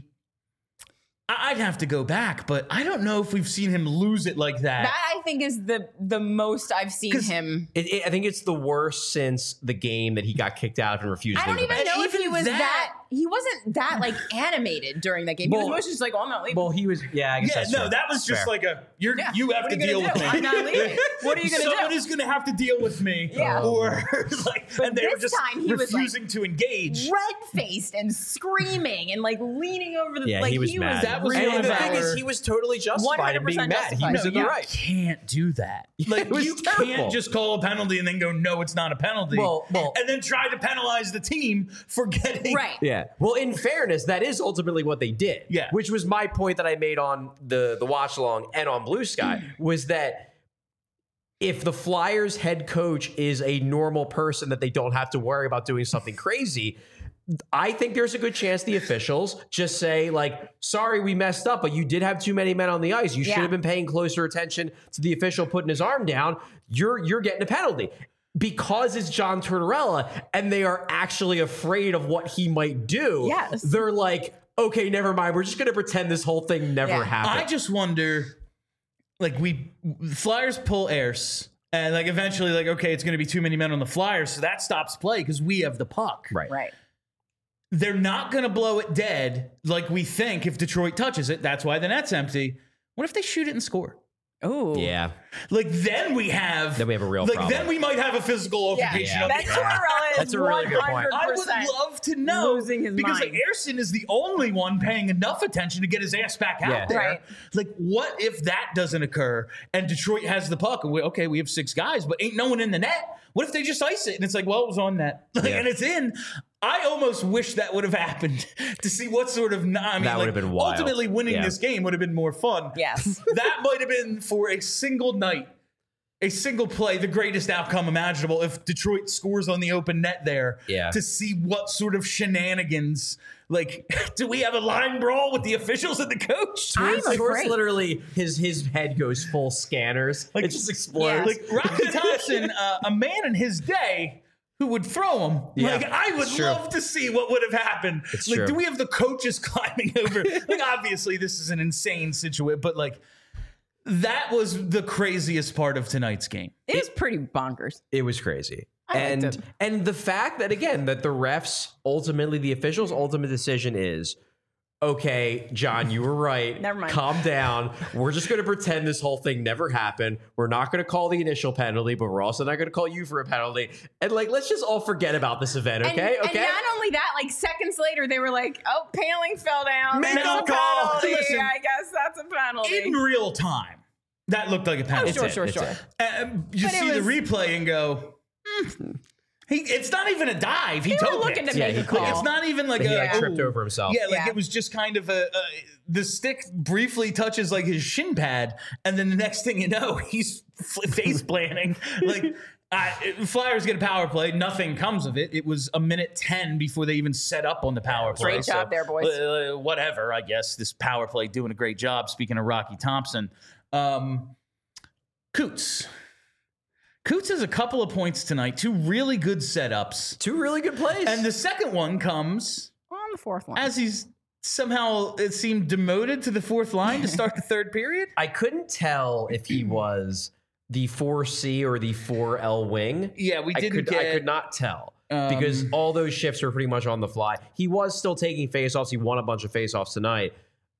S1: I- I'd have to go back, but I don't know if we've seen him lose it like that.
S2: That I think is the the most I've seen
S1: 'Cause
S2: him.
S3: It, it, I think it's the worst since the game that he got kicked out and refused
S2: I
S3: to
S2: don't
S3: leave the
S2: even
S3: bench.
S2: know if he
S1: even
S2: was
S1: that-
S2: that, He wasn't that like animated during that game. He
S3: Well-
S2: was mostly just like, "Oh, I'm not leaving."
S3: Well, he was. Yeah, I guess
S1: yeah,
S3: that's
S1: no,
S3: true.
S1: that was just
S3: Fair.
S1: like a you're
S2: Yeah.
S1: you have
S2: What
S1: to
S2: are you
S1: deal
S2: gonna
S1: with
S2: do?
S1: me.
S2: I'm not leaving. What are you gonna
S1: Someone
S2: do?
S1: is going to have to deal with me.
S2: Yeah.
S1: Or like,
S2: But
S1: and they were
S2: this
S1: just
S2: time he was, like,
S1: refusing to engage.
S2: Red faced and screaming and like leaning over the
S3: Yeah,
S2: like
S3: he was mad.
S1: That was
S3: and
S1: really
S3: the
S1: bad.
S3: thing is, he was totally justified in being
S2: one hundred percent
S3: mad. He
S2: justified.
S3: was
S1: No,
S3: in the
S1: you
S3: right.
S1: can't do that. Like
S3: it was
S1: you
S3: terrible.
S1: can't just call a penalty and then go, no, it's not a penalty.
S3: Well- well-
S1: and then try to penalize the team for getting
S2: right.
S3: Yeah. Well, in fairness, that is ultimately what they did.
S1: Yeah.
S3: Which was my point that I made on the the watch along and on Blue Sky was that if the Flyers head coach is a normal person that they don't have to worry about doing something crazy, I think there's a good chance the officials just say, like, sorry, we messed up, but you did have too many men on the ice. You
S2: Yeah.
S3: should have been paying closer attention to the official putting his arm down. You're you're getting a penalty. Because it's John Tortorella and they are actually afraid of what he might do.
S2: Yes.
S3: They're like, okay, never mind. We're just going to pretend this whole thing never
S2: Yeah.
S3: happened.
S1: I just wonder, like, we Flyers pull Ayers, and like eventually, like, okay, it's going to be too many men on the Flyers, so that stops play because we have the puck.
S3: right.
S2: Right.
S1: They're not going to blow it dead like we think if Detroit touches it. That's why the net's empty. What if they shoot it and score?
S2: Oh.
S3: Yeah.
S1: Like, then we have
S3: Then we have a real
S1: like
S3: problem.
S1: then we might have a physical
S2: Yeah.
S1: altercation.
S3: Yeah.
S1: of
S2: That
S1: the-
S2: Tortorella is
S3: That's a really good point.
S1: I would love to know
S2: losing his
S1: because
S2: mind.
S1: like Ayrton is the only one paying enough attention to get his ass back out
S3: Yeah.
S1: there.
S2: Right.
S1: Like, what if that doesn't occur and Detroit has the puck and we okay, we have six guys, but ain't no one in the net? What if they just ice it and it's like, well, it was on net like,
S3: Yeah.
S1: and it's in? I almost wish that would have happened to see what sort of. I mean,
S3: That
S1: like,
S3: would have been wild.
S1: ultimately winning
S3: Yeah.
S1: this game would have been more fun.
S2: Yes.
S1: That might have been for a single night. A single play, the greatest outcome imaginable if Detroit scores on the open net there.
S3: Yeah.
S1: To see what sort of shenanigans, like, do we have a line brawl with the officials and the coach?
S2: I'm
S3: Torts
S2: afraid.
S3: literally, his his head goes full scanners.
S1: Like-
S3: it just explodes.
S1: Like, Rocky Thompson, uh, a man in his day who would throw him.
S3: Yeah,
S1: like, I would
S3: it's true.
S1: love to see what would have happened.
S3: It's
S1: like,
S3: true.
S1: do we have the coaches climbing over? Like, obviously, this is an insane situation, but like, that was the craziest part of tonight's game.
S2: It was pretty bonkers.
S3: It was crazy.
S2: I liked
S3: and
S2: it.
S3: and the fact that again that the refs ultimately the officials ultimate decision is okay, John, you were right.
S2: Never mind.
S3: Calm down. We're just going to pretend this whole thing never happened. We're not going to call the initial penalty, but we're also not going to call you for a penalty. And like, let's just all forget about this event, okay?
S2: And,
S3: okay.
S2: and not only that, like seconds later, they were like, "Oh, Paling fell down.
S3: Make
S2: That's
S3: a
S2: a
S3: call."
S2: penalty.
S1: Listen,
S2: I guess that's a penalty."
S1: In real time, that looked like a penalty.
S2: Oh, sure,
S3: it,
S2: sure,
S3: it's
S2: sure.
S3: it.
S1: And you
S2: But it
S1: see the
S2: was-
S1: replay and go, "Hmm." he, it's not even a dive. He
S2: They were
S1: toe
S2: looking
S1: picked.
S2: to make
S3: Yeah,
S2: a
S3: he-
S2: call.
S1: Like, it's not even like
S3: He
S1: a
S3: like tripped
S1: ooh.
S3: over himself.
S1: Yeah, like
S2: Yeah.
S1: it was just kind of a, a the stick briefly touches like his shin pad, and then the next thing you know, he's f- face planting. Like, I, Flyers get a power play, nothing comes of it. It was a minute ten before they even set up on the power play.
S2: Great job there, boys.
S1: uh, whatever, I guess this power play doing a great job. Speaking of Rocky Thompson, um, Coots. Coots has a couple of points tonight, two really good setups.
S3: Two really good plays.
S1: And the second one comes
S2: On the fourth one.
S1: as he's somehow, it seemed, demoted to the fourth line to start the third period.
S3: I couldn't tell if he was the four C or the four L wing.
S1: Yeah, we
S3: I
S1: didn't
S3: could,
S1: get...
S3: I could not tell
S1: Um,
S3: because all those shifts were pretty much on the fly. He was still taking faceoffs. He won a bunch of faceoffs tonight.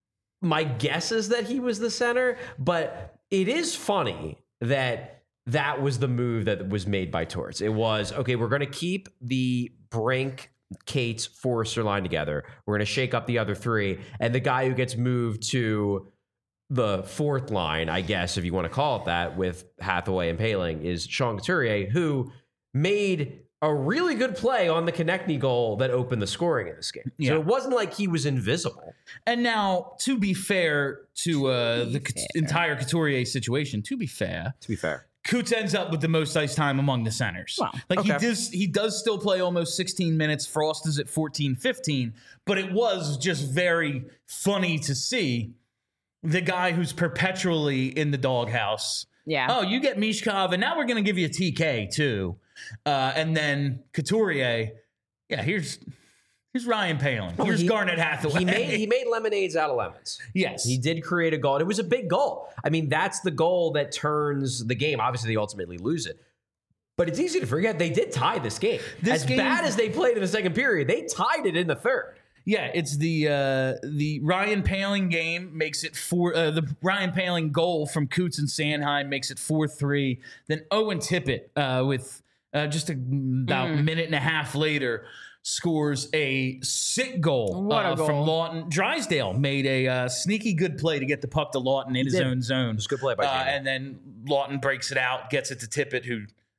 S3: My guess is that he was the center, but it is funny that that was the move that was made by Torts. It was, okay, we're going to keep the Brink, Cates, Forrester line together. We're going to shake up the other three. And the guy who gets moved to the fourth line, I guess, if you want to call it that, with Hathaway and Paling, is Sean Couturier, who made a really good play on the Konechny goal that opened the scoring in this game.
S1: Yeah.
S3: So it wasn't like he was invisible.
S1: And now, to be fair to uh,
S2: be
S1: the
S2: fair.
S1: Cout- entire Couturier situation, to be fair,
S3: To be fair.
S1: Coots ends up with the most ice time among the centers.
S2: Well,
S1: like he
S3: okay.
S1: does, he does still play almost sixteen minutes. Frost is at fourteen, fifteen, but it was just very funny to see the guy who's perpetually in the doghouse.
S2: Yeah.
S1: Oh, you get Mishkov, and now we're going to give you a T K too, uh, and then Couturier. Yeah, here's here's Ryan Paling. Here's
S3: he-
S1: Garnet Hathaway.
S3: He made he made lemonades out of lemons.
S1: yes,
S3: He did create a goal. And it was a big goal. I mean, that's the goal that turns the game. Obviously, they ultimately lose it. But it's easy to forget they did tie this game.
S1: This
S3: as
S1: game-
S3: bad as they played in the second period, they tied it in the third.
S1: Yeah, it's the uh, the Ryan Paling game makes it four. Uh, the Ryan Paling goal from Coots and Sanheim makes it four three. Then Owen Tippett uh, with uh, just a, about a minute and a half later scores a sick goal,
S2: What a
S1: uh,
S2: goal.
S1: from Lawton. Drysdale made a uh, sneaky good play to get the puck to Lawton in his
S3: did.
S1: own zone. It
S3: was a good play by
S1: uh,
S3: Jamie.
S1: And then Lawton breaks it out, gets it to Tippett, who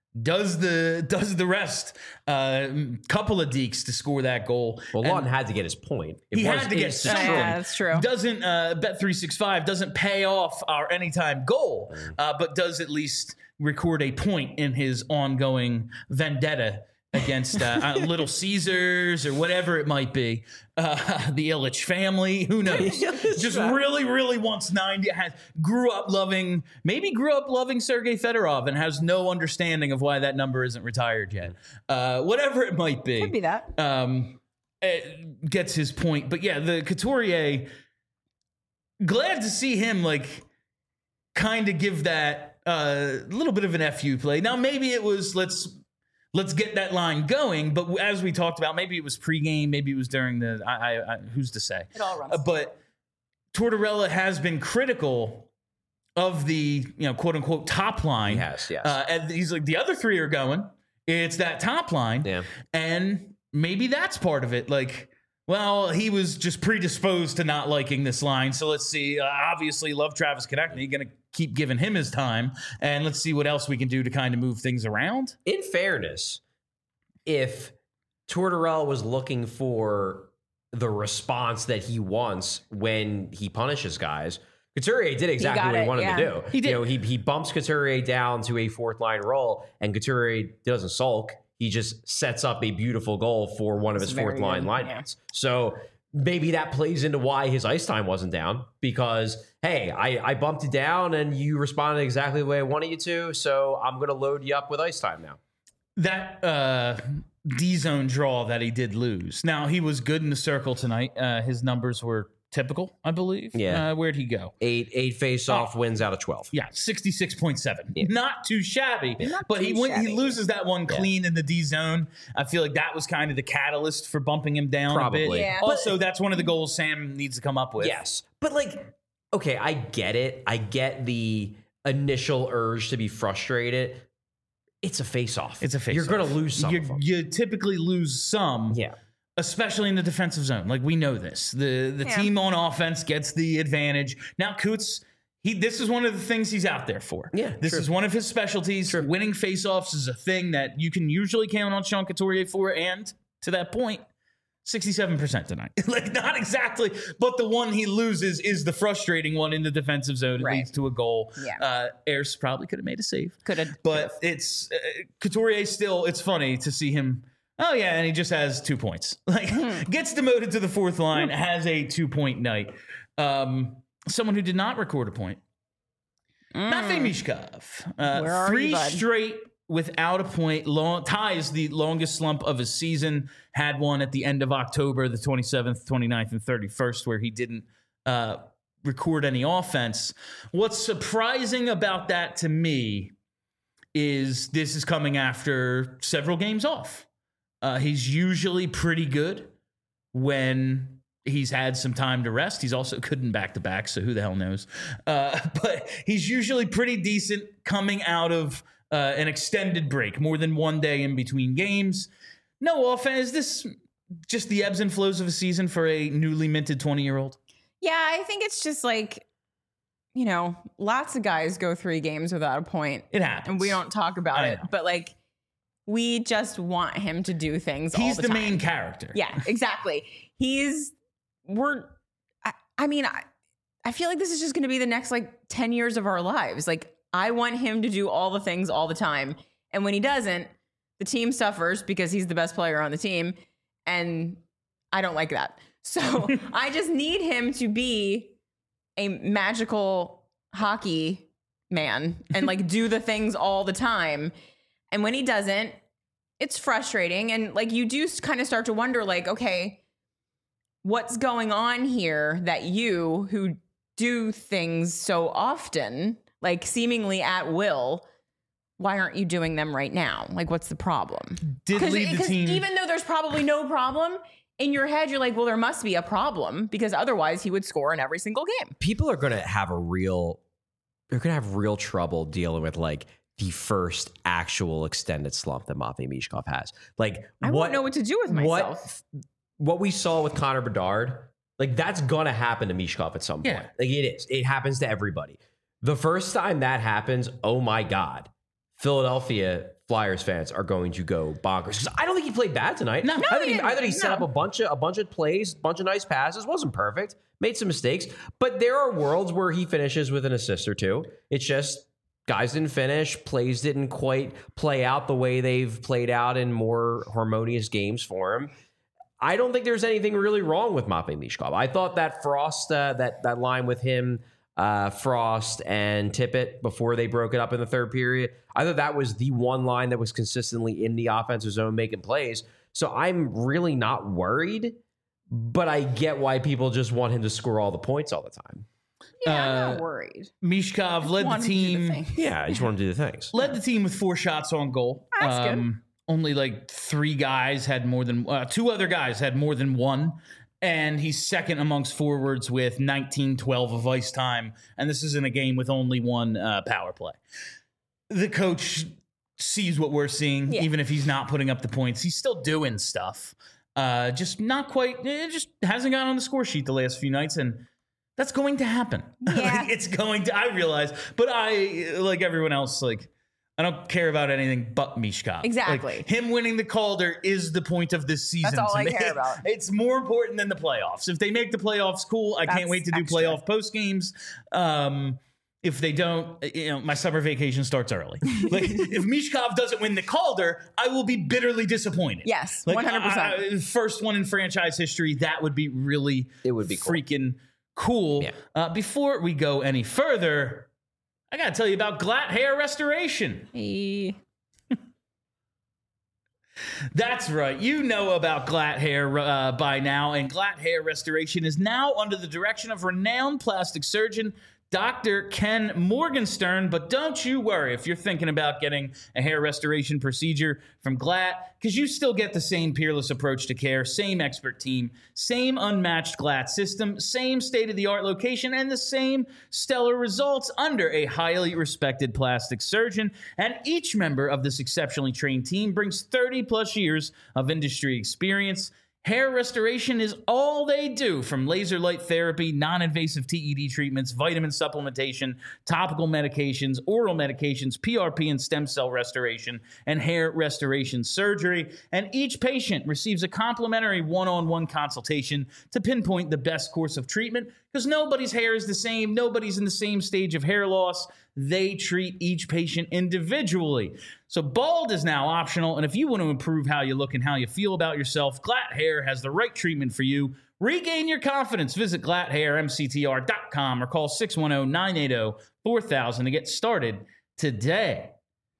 S1: does the does the rest. Uh, couple of dekes to score that goal.
S3: Well,
S1: And
S3: Lawton had to get his point. It
S1: he
S3: was
S1: had to get
S3: his
S1: something.
S3: strike.
S2: Yeah, that's true.
S1: Doesn't uh, Bet three sixty-five doesn't pay off our anytime goal, uh, but does at least record a point in his ongoing vendetta against uh, uh, Little Caesars or whatever it might be, uh, the Illich family. Who knows? Just really, really wants ninety. Has grew up loving, maybe grew up loving Sergei Fedorov and has no understanding of why that number isn't retired yet. Uh, whatever it might be,
S2: Could be that.
S1: um, it gets his point. But yeah, the Couturier. Glad to see him like kind of give that a uh, little bit of an F U play. Now maybe it was let's. Let's get that line going. But as we talked about, maybe it was pregame, maybe it was during the. I, I, I who's to say?
S2: It all runs.
S1: Uh, but Tortorella has been critical of the you know quote unquote top line.
S3: He has, yes.
S1: Uh, and he's like the other three are going. It's that top line,
S3: Yeah.
S1: and maybe that's part of it. Like, well, he was just predisposed to not liking this line. So let's see. Uh, obviously, love Travis Konechny. Going to keep giving him his time, and let's see what else we can do to kind of move things around.
S3: In fairness, if Tortorella was looking for the response that he wants when he punishes guys, Couturier did exactly
S2: got
S3: what he
S2: it,
S3: wanted
S2: yeah.
S3: to do.
S1: He did.
S3: You know, he he bumps Couturier down to a fourth line role, and Couturier doesn't sulk. He just sets up a beautiful goal for one of
S2: That's
S3: his fourth
S2: very
S3: line
S2: good,
S3: linemates. So maybe that plays into why his ice time wasn't down because, hey, I, I bumped you down and you responded exactly the way I wanted you to, so I'm going to load you up with ice time now.
S1: That uh, D-zone draw that he did lose. Now, he was good in the circle tonight. Uh, his numbers were typical, I believe.
S3: Yeah.
S1: Uh, where'd he go?
S3: Eight eight face-off
S1: Oh.
S3: wins out of twelve.
S1: Yeah, sixty-six point seven.
S3: Yeah.
S1: Not too shabby.
S2: Not
S1: but he
S2: too
S1: went, he
S2: shabby.
S1: loses that one clean in the D zone. I feel like that was kind of the catalyst for bumping him down a
S3: Probably.
S1: bit.
S2: Yeah.
S1: Also, that's one of the goals Sam needs to come up with.
S3: Yes. But, like, okay, I get it. I get the initial urge to be frustrated. It's a face-off.
S1: It's a face.
S3: You're going to lose some
S1: You,
S3: of them.
S1: you typically lose some.
S3: Yeah.
S1: Especially in the defensive zone. Like, we know this. The the
S2: Yeah.
S1: team on offense gets the advantage. Now, Coots, he this is one of the things he's out there for.
S3: Yeah,
S1: This
S3: true.
S1: is one of his specialties. Winning faceoffs is a thing that you can usually count on Sean Couturier for. And to that point, sixty-seven percent tonight. Like, not exactly, but the one he loses is the frustrating one in the defensive zone. It
S2: Right.
S1: leads to a goal.
S2: Yeah.
S1: Uh, Ayers probably could have made a save.
S2: Could have.
S1: But it's uh, Couturier still, it's funny to see him. Oh, yeah. And he just has two points. Like, gets demoted to the fourth line, has a two point night. Um, someone who did not record a point. Matvei Mishkov. Uh,
S2: Where are
S1: three
S2: you, bud?
S1: straight without a point. Long, ties the longest slump of his season. Had one at the end of October, the twenty-seventh, twenty-ninth, and thirty-first, where he didn't uh, record any offense. What's surprising about that to me is this is coming after several games off. Uh, he's usually pretty good when he's had some time to rest. He's also good in back-to-back, so who the hell knows? Uh, but he's usually pretty decent coming out of uh, an extended break, more than one day in between games. No offense. Is this just the ebbs and flows of a season for a newly minted twenty-year-old?
S2: Yeah, I think it's just like, you know, lots of guys go three games without a point,
S1: It happens.
S2: and we don't talk about
S1: I
S2: it.
S1: know.
S2: But like, we just want him to do things. all
S1: He's
S2: the,
S1: the,
S2: time.
S1: main character.
S2: Yeah, exactly. He's we're. I, I mean, I, I feel like this is just going to be the next like ten years of our lives. Like, I want him to do all the things all the time, and when he doesn't, the team suffers because he's the best player on the team, and I don't like that. So I just need him to be a magical hockey man and like do the things all the time. And when he doesn't, it's frustrating. And like, you do kind of start to wonder, like, okay, what's going on here that you who do things so often, like seemingly at will, why aren't you doing them right now? Like, what's the problem?
S1: Did lead the
S2: Because
S1: team.
S2: even though there's probably no problem, in your head, you're like, well, there must be a problem because otherwise he would score in every single game.
S3: People are going to have a real, they're going to have real trouble dealing with like the first actual extended slump that Matvei Mishkov has. Like,
S2: I
S3: what,
S2: won't know what to do with myself.
S3: What, what we saw with Connor Bedard, like that's going to happen to Mishkov at some point.
S1: Yeah.
S3: Like it is. It happens to everybody. The first time that happens, oh my God, Philadelphia Flyers fans are going to go bonkers. 'Cause I don't think he played bad tonight.
S1: No.
S3: I
S1: No,
S3: thought he,
S2: he
S3: I thought he
S2: didn't.
S3: set
S2: No.
S3: up a bunch of a bunch of plays, bunch of nice passes. Wasn't perfect. Made some mistakes. But there are worlds where he finishes with an assist or two. It's just guys didn't finish. Plays didn't quite play out the way they've played out in more harmonious games for him. I don't think there's anything really wrong with Matvei Michkov. I thought that Frost, uh, that that line with him, uh, Frost and Tippett before they broke it up in the third period, I thought that was the one line that was consistently in the offensive zone making plays. So I'm really not worried, but I get why people just want him to score all the points all the time.
S2: Yeah, I'm
S1: Uh,
S2: not worried.
S1: Mishkov led the
S2: Want him to do
S1: team.
S2: thing.
S3: Yeah, I just want to do the things.
S1: led the team with four shots on goal. Um,
S2: That's good.
S1: Only like three guys had more than uh, two other guys had more than one. And he's second amongst forwards with nineteen twelve of ice time. And this is in a game with only one uh, power play. The coach sees what we're seeing,
S2: Yeah.
S1: even if he's not putting up the points. He's still doing stuff. Uh, just not quite, it just hasn't gotten on the score sheet the last few nights. And that's going to happen.
S2: Yeah.
S1: Like, it's going to, I realize. But I, like everyone else, like, I don't care about anything but Mishkov.
S2: Exactly.
S1: Like, him winning the Calder is the point of this season.
S2: That's all
S1: to
S2: I
S1: me.
S2: care about.
S1: It's more important than the playoffs. If they make the playoffs, cool. I can't
S2: That's
S1: wait to do
S2: extra.
S1: playoff post games. Um, if they don't, you know, my summer vacation starts early. Like, if Mishkov doesn't win the Calder, I will be bitterly disappointed.
S2: Yes,
S1: Like,
S2: one hundred percent.
S1: I- I- first one in franchise history. That would be really
S3: It would be cool.
S1: freaking cool.
S3: Yeah.
S1: Uh, before we go any further, I got to tell you about Glatt Hair Restoration.
S2: Hey.
S1: That's right. You know about Glatt Hair uh, by now, and Glatt Hair Restoration is now under the direction of renowned plastic surgeon Doctor Ken Morgenstern. But don't you worry if you're thinking about getting a hair restoration procedure from Glatt, because you still get the same peerless approach to care, same expert team, same unmatched Glatt system, same state-of-the-art location, and the same stellar results under a highly respected plastic surgeon. And each member of this exceptionally trained team brings thirty plus years of industry experience. Hair restoration is all they do, from laser light therapy, non-invasive T E D treatments, vitamin supplementation, topical medications, oral medications, P R P and stem cell restoration, and hair restoration surgery. And each patient receives a complimentary one-on-one consultation to pinpoint the best course of treatment, because nobody's hair is the same. Nobody's in the same stage of hair loss. They treat each patient individually. So bald is now optional, and if you want to improve how you look and how you feel about yourself, Glatt Hair has the right treatment for you. Regain your confidence. Visit glatt hair m c t r dot com or call six one zero, nine eight zero, four thousand to get started today.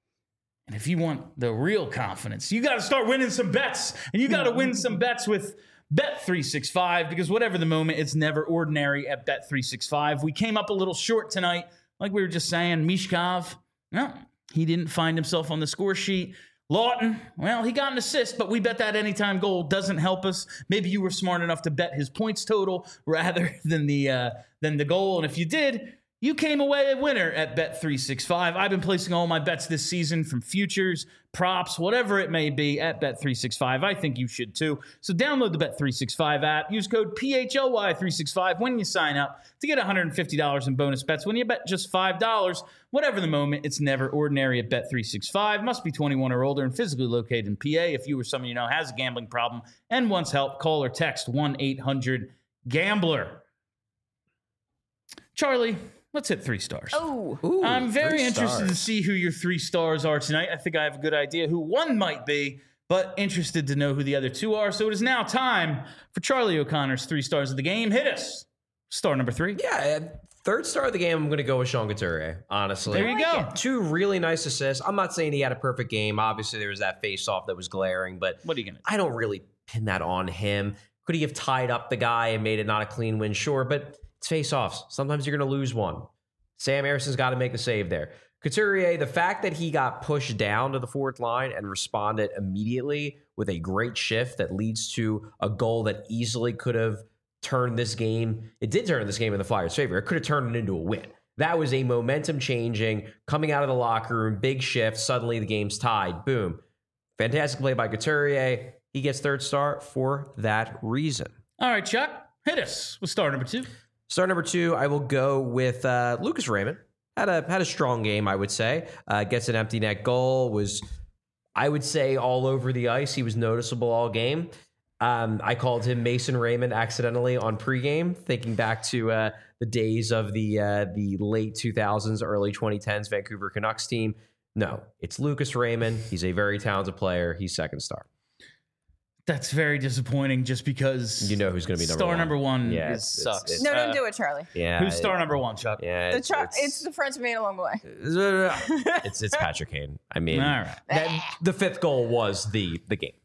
S1: And if you want the real confidence, you got to start winning some bets, and you got to win some bets with Bet three sixty-five, because whatever the moment, it's never ordinary at Bet three sixty-five. We came up a little short tonight, like we were just saying. Mishkov, no, he didn't find himself on the score sheet. Lawton, well, he got an assist, but we bet that anytime goal doesn't help us. Maybe you were smart enough to bet his points total rather than the uh, than the goal, and if you did, you came away a winner at Bet three sixty-five. I've been placing all my bets this season, from futures, props, whatever it may be, at Bet three sixty-five. I think you should too. So download the Bet three sixty-five app. Use code P H L Y three sixty-five when you sign up to get one hundred fifty dollars in bonus bets when you bet just five dollars. Whatever the moment, it's never ordinary at Bet three sixty-five. Must be twenty-one or older and physically located in P A. If you or someone you know has a gambling problem and wants help, call or text one eight hundred gambler. Charlie, let's hit three stars.
S2: Oh.
S3: Ooh,
S1: I'm very
S3: three
S1: interested to
S3: stars.
S1: see who your three stars are tonight. I think I have a good idea who one might be, but interested to know who the other two are. So it is now time for Charlie O'Connor's three stars of the game. Hit us. Star number three.
S3: Yeah, uh, third star of the game, I'm going to go with Sean Couturier, honestly.
S1: There you go.
S3: Two really nice assists. I'm not saying he had a perfect game. Obviously, there was that face-off that was glaring, but
S1: What are you going to do?
S3: I don't really pin that on him. Could he have tied up the guy and made it not a clean win? Sure, but it's face-offs. Sometimes you're going to lose one. Sam Harrison's got to make the save there. Couturier, the fact that he got pushed down to the fourth line and responded immediately with a great shift that leads to a goal that easily could have turned this game. It did turn this game in the Flyers' favor. It could have turned it into a win. That was a momentum changing, coming out of the locker room, big shift. Suddenly the game's tied. Boom. Fantastic play by Couturier. He gets third star for that reason.
S1: All right, Chuck, hit us with star number two.
S3: Star number two, I will go with uh, Lucas Raymond. Had a had a strong game, I would say. Uh, gets an empty net goal. Was I would say all over the ice, he was noticeable all game. Um, I called him Mason Raymond accidentally on pregame, thinking back to uh, the days of the uh, the late two thousands, early twenty tens Vancouver Canucks team. No, it's Lucas Raymond. He's a very talented player. He's second star.
S1: That's very disappointing just because
S3: you know who's going to be number
S1: star
S3: one.
S1: number one
S3: Yeah,
S1: is,
S3: it's-
S1: sucks.
S3: it's-
S2: No,
S1: Uh,
S2: don't do it, Charlie.
S3: Yeah,
S1: Who's star number one, Chuck?
S3: Yeah,
S2: The
S3: it's,
S2: char-
S3: it's,
S2: it's the friends we made along the way.
S3: it's it's Patrick Kane. I mean,
S1: All right.
S3: that, the fifth goal was the the game.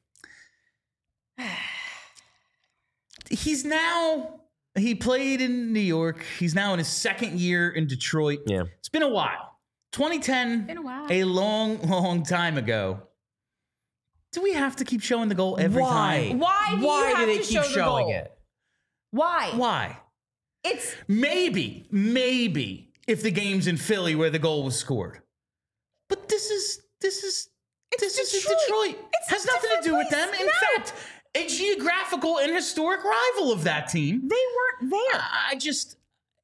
S1: He's now, he played in New York. He's now in his second year in Detroit.
S3: Yeah.
S1: It's been a while. twenty ten,
S2: Been a while.
S1: a long, long time ago. Do we have to keep showing the goal every
S3: Why?
S1: time?
S2: Why do you
S3: Why
S2: have
S3: do they
S2: to
S3: keep
S2: show the
S3: showing
S2: goal?
S3: it?
S2: Why?
S1: Why?
S2: It's
S1: Maybe, maybe if the game's in Philly where the goal was scored. But this is, this is, this is
S2: Detroit.
S1: Detroit.
S2: It's
S1: Has
S2: a
S1: nothing to
S2: different
S1: do with
S2: place.
S1: them. In
S2: No.
S1: fact, a geographical and historic rival of that team.
S2: they weren't there.
S1: I just,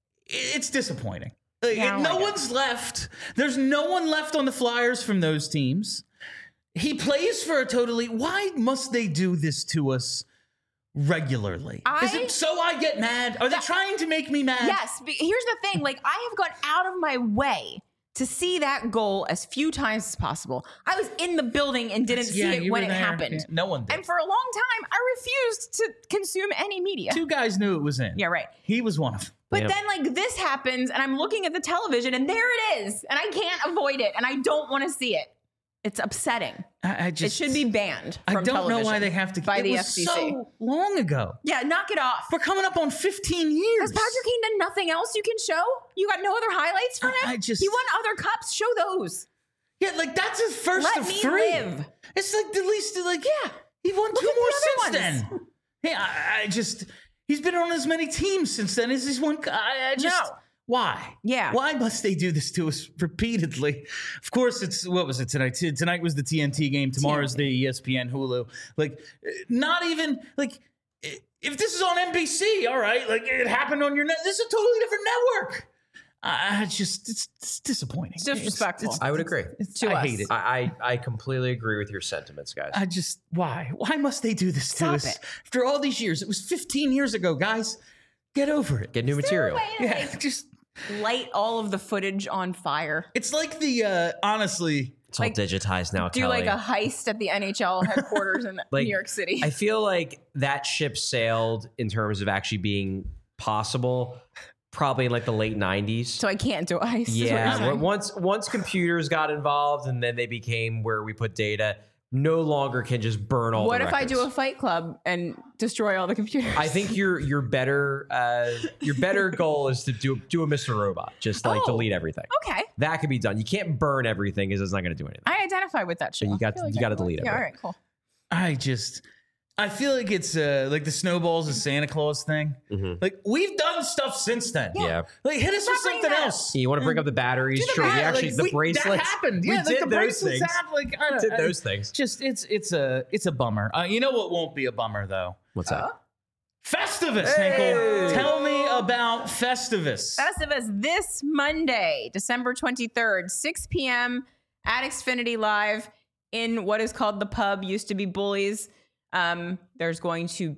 S1: it's disappointing. Like,
S2: Yeah, I don't
S1: no
S2: like it.
S1: one's left. There's no one left on the Flyers from those teams. He plays for a totally. Why must they do this to us regularly? Is
S2: I-
S1: it so I get mad? Are they
S2: That-
S1: trying to make me mad?
S2: Yes, but here's the thing. Like, I have gone out of my way to see that goal as few times as possible. I was in the building and didn't
S1: Yeah,
S2: see it
S1: you
S2: when
S1: were
S2: it
S1: there.
S2: happened.
S1: Yeah, no one did.
S2: And for a long time, I refused to consume any media.
S1: Two guys knew it was in.
S2: Yeah, right.
S1: He was one of them.
S2: But
S3: Yeah.
S2: then, like, this happens, and I'm looking at the television, and there it is, and I can't avoid it, and I don't want to see it. It's upsetting.
S1: I, I
S2: It
S1: just
S2: should be banned from
S1: I don't
S2: television
S1: know why they have to.
S2: by
S1: it
S2: the
S1: was
S2: F C C.
S1: so long ago.
S2: Yeah, knock it off.
S1: We're coming up on fifteen years.
S2: Has Patrick Kane done nothing else you can show? You got no other highlights from him?
S1: I- I just-
S2: he won other cups. Show those.
S1: Yeah, like that's his first
S2: Let
S1: of
S2: me
S1: three.
S2: live.
S1: It's like the least, like yeah, he won
S2: Look
S1: two
S2: at the
S1: more
S2: other
S1: since
S2: ones.
S1: then. Hey, I, I just he's been on as many teams since then as he's won. I, I just
S2: No.
S1: why?
S2: Yeah.
S1: why must they do this to us repeatedly? Of course, it's what was it tonight? T- Tonight was the T N T game. Tomorrow's the E S P N Hulu. Like, not even like if this is on N B C, all right. Like it happened on your net. This is a totally different network. I I just it's, it's disappointing.
S2: It's disrespectful.
S3: I would agree.
S1: It's,
S2: To
S1: I
S2: us.
S1: hate it.
S3: I, I I completely agree with your sentiments, guys.
S1: I just why? Why must they do this to
S2: Stop
S1: us
S2: it.
S1: after all these years? It was fifteen years ago, guys. Get over it.
S3: Get new material.
S1: Yeah, just
S2: Light all of the footage on fire.
S1: it's like the uh honestly.
S3: It's all
S2: like,
S3: digitized now.
S2: Do
S3: Kelly.
S2: like a heist at the N H L headquarters in
S3: Like,
S2: New York City.
S3: I feel like that ship sailed in terms of actually being possible, probably in like the late nineties.
S2: so I can't do a heist. is what you're
S3: Yeah,
S2: saying.
S3: w- once once computers got involved, and then they became where we put data. No longer can just burn all.
S2: What
S3: the
S2: if I do a
S3: records.
S2: Fight Club and destroy all the computers?
S3: I think your your better uh, your better goal is to do do a Mister Robot, just like
S2: Oh.
S3: delete everything.
S2: Okay.
S3: That could be done. You can't burn everything because it's not going to do anything.
S2: I identify with that show.
S3: you got
S2: I feel
S3: to- you
S2: I
S3: got to
S2: would.
S3: delete it,
S2: Yeah, all
S3: bro.
S2: right, cool.
S1: I just I feel like it's uh like the snowballs and Santa Claus thing.
S3: Mhm.
S1: Like we've done stuff since then.
S3: Yeah.
S1: Like hit us with
S2: Stop bringing
S1: something
S2: that up.
S1: else.
S3: You want to bring up the batteries?
S1: Do
S3: Sure.
S1: bat-
S3: We actually
S1: like,
S3: the
S1: we-
S3: bracelets.
S1: that happened.
S3: We
S1: Yeah, like
S3: did
S1: the
S3: those
S1: bracelets
S3: things.
S1: have like I don't,
S3: Did
S1: I-
S3: those things.
S1: Just it's it's a it's a bummer. Uh, you know what won't be a bummer though?
S3: What's that?
S1: Festivus,
S3: Hey!
S1: Hinkle. Tell me about Festivus.
S2: Festivus this Monday, December twenty-third, six p.m. at Xfinity Live in what is called the pub, used to be Bullies. Um, there's going to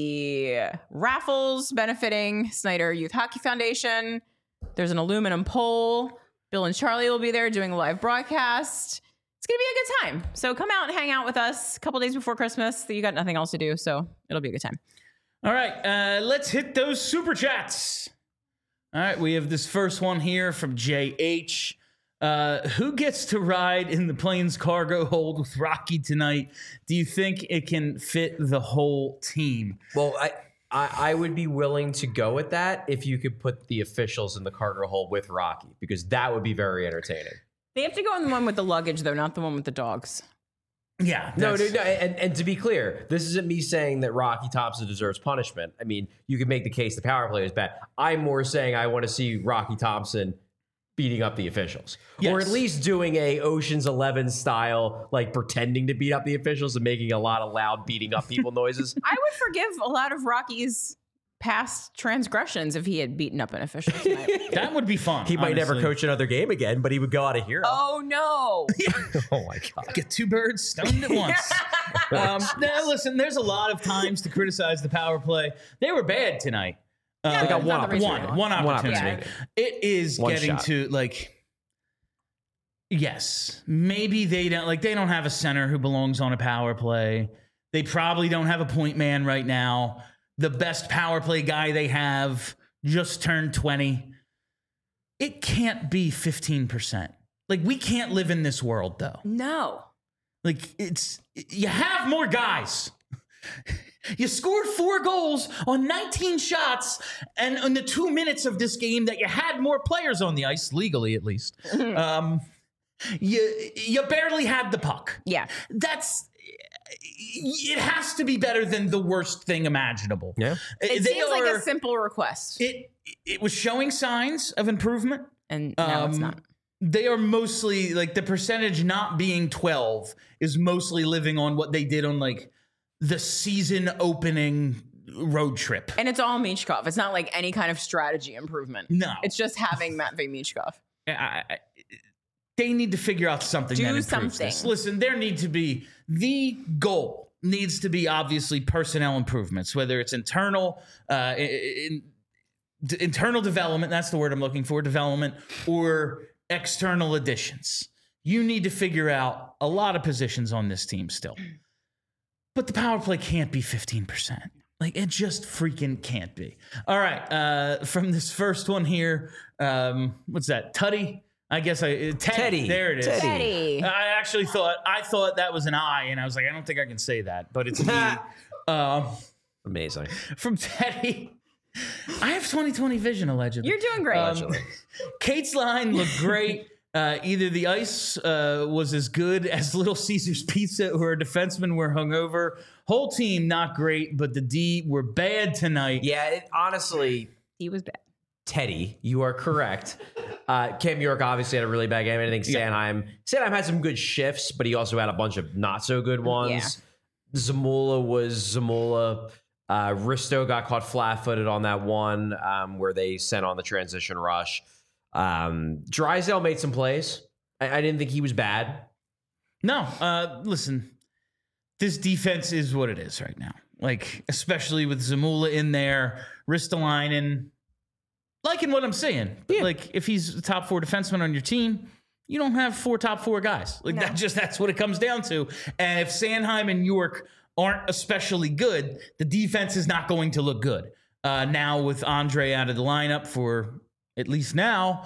S2: be raffles benefiting Snyder Youth Hockey Foundation. There's an aluminum pole. Bill and Charlie will be there doing a live broadcast. It's going to be a good time. So come out and hang out with us a couple days before Christmas. You got nothing else to do, so it'll be a good time.
S1: All right, uh, let's hit those super chats. All right, we have this first one here from J H. Uh, who gets to ride in the plane's cargo hold with Rocky tonight? Do you think it can fit the whole team?
S3: Well, I, I I would be willing to go with that if you could put the officials in the cargo hold with Rocky, because that would be very entertaining.
S2: They have to go in the one with the luggage, though, not the one with the dogs.
S1: Yeah.
S3: No, no,
S1: that's-
S3: no. And, and to be clear, this isn't me saying that Rocky Thompson deserves punishment. I mean, you can make the case the power play is bad. I'm more saying I want to see Rocky Thompson beating up the officials,
S1: Yes.
S3: or at least doing a Ocean's Eleven style, like pretending to beat up the officials and making a lot of loud beating up people noises.
S2: I would forgive a lot of Rocky's past transgressions if he had beaten up an official tonight.
S1: That would be fun.
S3: He might never
S1: honestly.
S3: coach another game again, but he would go out a hero.
S2: Oh no.
S3: Oh my God.
S1: Get two birds stoned at once. um, now, listen, there's a lot of times to criticize the power play. They were bad tonight. Uh,
S3: They got one
S2: not the reason
S1: one,
S2: why.
S1: one opportunity.
S3: opportunity.
S1: It is
S3: One
S1: getting
S3: shot.
S1: to like, yes, maybe they don't like they don't have a center who belongs on a power play. They probably don't have a point man right now. The best power play guy they have just turned twenty. It can't be fifteen percent. Like, we can't live in this world, though.
S2: No.
S1: Like, it's, you have more guys. You scored four goals on nineteen shots, and in the two minutes of this game that you had more players on the ice, legally at least, um, you you barely had the puck.
S2: Yeah.
S1: That's, it has to be better than the worst thing imaginable.
S3: Yeah.
S2: It
S1: They
S2: seems like
S1: are-
S2: a simple request.
S1: It it was showing signs of improvement.
S2: and now it's
S1: Um,
S2: not.
S1: They are mostly like the percentage not being twelve is mostly living on what they did on like the season opening road trip.
S2: And it's all Michkov. It's not like any kind of strategy improvement.
S1: No,
S2: It's just having Matvey Michkov.
S1: I, I, they need to figure out something
S2: Do
S1: that improves
S2: something.
S1: this. Listen, there need to be the goal needs to be obviously personnel improvements, whether it's internal, uh, in, in, internal development. That's the word I'm looking for, development, or external additions. You need to figure out a lot of positions on this team still, but the power play can't be fifteen percent. Like, it just freaking can't be. All right. Uh, from this first one here, um, what's that? Tutty? I guess I uh, Teddy.
S3: Teddy.
S1: There it is.
S3: Teddy.
S2: Teddy.
S1: I actually thought I thought that was an I, and I was like, I don't think I can say that, but it's me. um,
S3: Amazing.
S1: from Teddy. I have twenty twenty vision allegedly.
S2: You're doing great.
S1: Um, Kate's line looked great. Uh, either the ice uh, was as good as Little Caesar's Pizza or our defensemen were hungover. Whole team not great, but the D were bad tonight.
S3: Yeah, it, honestly,
S2: he was bad.
S3: Teddy, you are correct. Uh, Cam York obviously had a really bad game. I think Sanheim, Sanheim had some good shifts, but he also had a bunch of not so good ones. Zamula was Zamula. Uh, Risto got caught flat-footed on that one um, where they sent on the transition rush. Um, Drysdale made some plays. I, I didn't think he was bad.
S1: No, uh, listen, this defense is what it is right now. Like, especially with Zamula in there, Ristolainen, liking what I'm saying.
S3: Yeah.
S1: Like, if he's a top four defenseman on your team, you don't have four top four guys. Like,
S2: No.
S1: that just that's what it comes down to. And if Sanheim and York aren't especially good, the defense is not going to look good. Uh, now with Andre out of the lineup for at least now,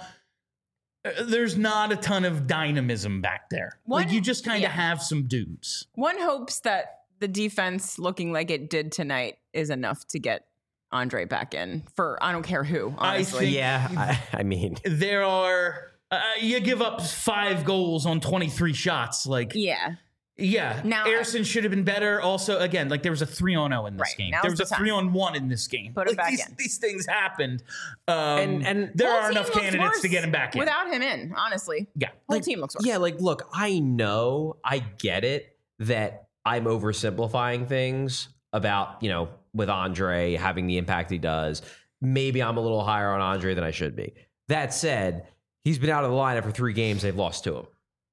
S1: uh, there's not a ton of dynamism back there.
S2: One-
S1: like, you just kind of
S2: yeah.
S1: have some dudes.
S2: One hopes that the defense looking like it did tonight is enough to get Andre back in for I don't care who, honestly.
S1: think-
S3: Yeah, I, I mean,
S1: There are uh, you give up five goals on twenty-three shots. Like,
S2: yeah.
S1: yeah,
S2: Now-
S1: Ayrson should have been better. Also, again, like there was a three on zero in this
S2: Right,
S1: game.
S2: now's
S1: There was
S2: the
S1: a
S2: time.
S1: three on one in this game.
S2: Put him
S1: Like,
S2: back
S1: these,
S2: in.
S1: these things happened, um,
S3: And- and-
S1: there
S2: Whole
S1: are
S2: team
S1: enough
S2: looks
S1: candidates
S2: worse
S1: to get him back in.
S2: without him in, honestly.
S1: yeah,
S2: Whole
S1: like,
S2: team looks worse.
S3: yeah, like, look, I know, I get it that I'm oversimplifying things about, you know, with Andre having the impact he does. Maybe I'm a little higher on Andre than I should be. That said, he's been out of the lineup for three games. They've lost to him.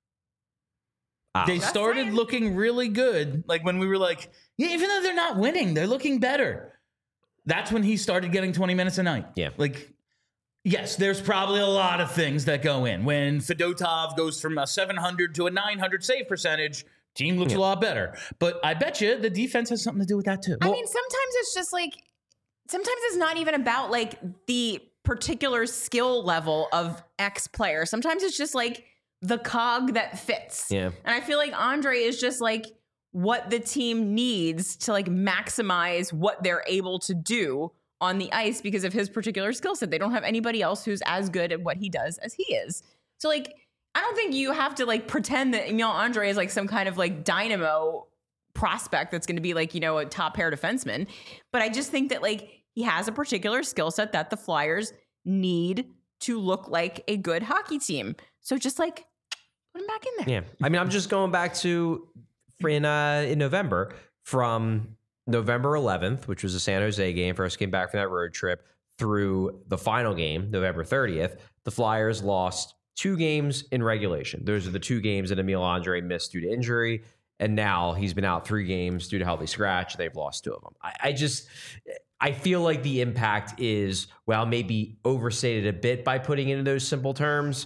S3: Ah.
S1: they
S2: That's
S1: started
S2: saying.
S1: looking really good. Like when we were like, yeah, even though they're not winning, they're looking better. That's when he started getting twenty minutes a night.
S3: Yeah.
S1: Like, yes, there's probably a lot of things that go in. When Fedotov goes from a seven hundred to a nine hundred save percentage, team looks
S3: Yeah.
S1: a lot better. But I bet you the defense has something to do with that too.
S2: I mean, sometimes it's just like, sometimes it's not even about like the particular skill level of X player. Sometimes it's just like the cog that fits.
S3: Yeah.
S2: And I feel like Andre is just like what the team needs to like maximize what they're able to do on the ice because of his particular skill set. They don't have anybody else who's as good at what he does as he is. So like, I don't think you have to like pretend that, you know, Andre is like some kind of like dynamo prospect that's going to be like, you know, a top pair defenseman. But I just think that like he has a particular skill set that the Flyers need to look like a good hockey team. So just like put him back in there.
S3: Yeah. I mean, I'm just going back to in uh, in November from November eleventh, which was a San Jose game, first came back from that road trip, through the final game, November thirtieth, the Flyers lost two games in regulation. Those are the two games that Emil Andre missed due to injury. And now he's been out three games due to healthy scratch. They've lost two of them. I, I just, I feel like the impact is, well, maybe overstated a bit by putting it in those simple terms.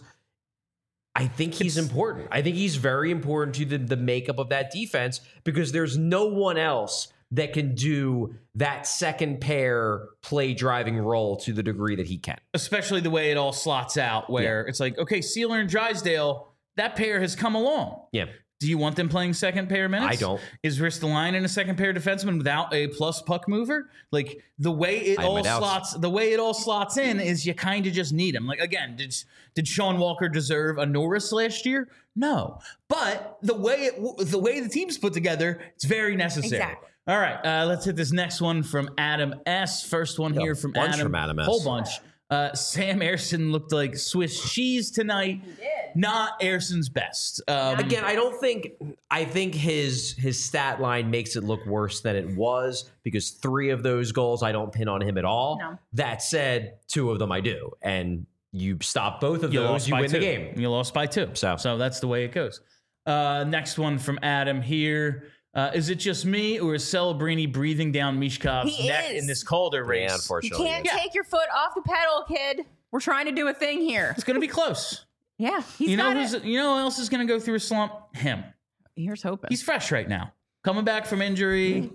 S3: I think he's it's, important. I think he's very important to the, the makeup of that defense because there's no one else that can do that second pair play driving role to the degree that he can.
S1: Especially the way it all slots out where yeah. it's like, okay, Sealer and Drysdale, that pair has come along.
S3: Yeah.
S1: Do you want them playing second pair minutes?
S3: I don't.
S1: Is Ristolainen a second pair defenseman without a plus puck mover? Like the way it all slots, the way it all slots in is you kind of just need him. Like again, did did Sean Walker deserve a Norris last year? No, but the way it the way the team's put together, it's very necessary.
S2: Exactly.
S1: All right, uh, let's hit this next one from Adam S. First one
S3: yeah,
S1: here from
S3: bunch
S1: Adam.
S3: From Adam S.
S1: Whole bunch. Uh, Sam Ersson looked like Swiss cheese tonight.
S2: He did.
S1: Not Ersson's best. Um,
S3: Again, I don't think I think his his stat line makes it look worse than it was because three of those goals I don't pin on him at all.
S2: No.
S3: That said, two of them I do, and you stop both of
S1: you
S3: those, you win
S1: two.
S3: the game.
S1: You lost by two.
S3: So,
S1: so that's the way it goes. Uh, next one from Adam here. Uh, is it just me, or is Celebrini breathing down Mishkov's
S2: He
S1: neck
S2: is.
S1: in this Calder race?
S3: Yeah,
S2: You
S3: unfortunately,
S2: can't
S1: Yeah.
S2: take your foot off the pedal, kid. We're trying to do a thing here.
S1: It's going to be close.
S2: Yeah, he's
S1: you know
S2: got
S1: who's?
S2: it.
S1: You know who else is going to go through a slump? Him.
S2: Here's hoping.
S1: He's fresh right now, coming back from injury.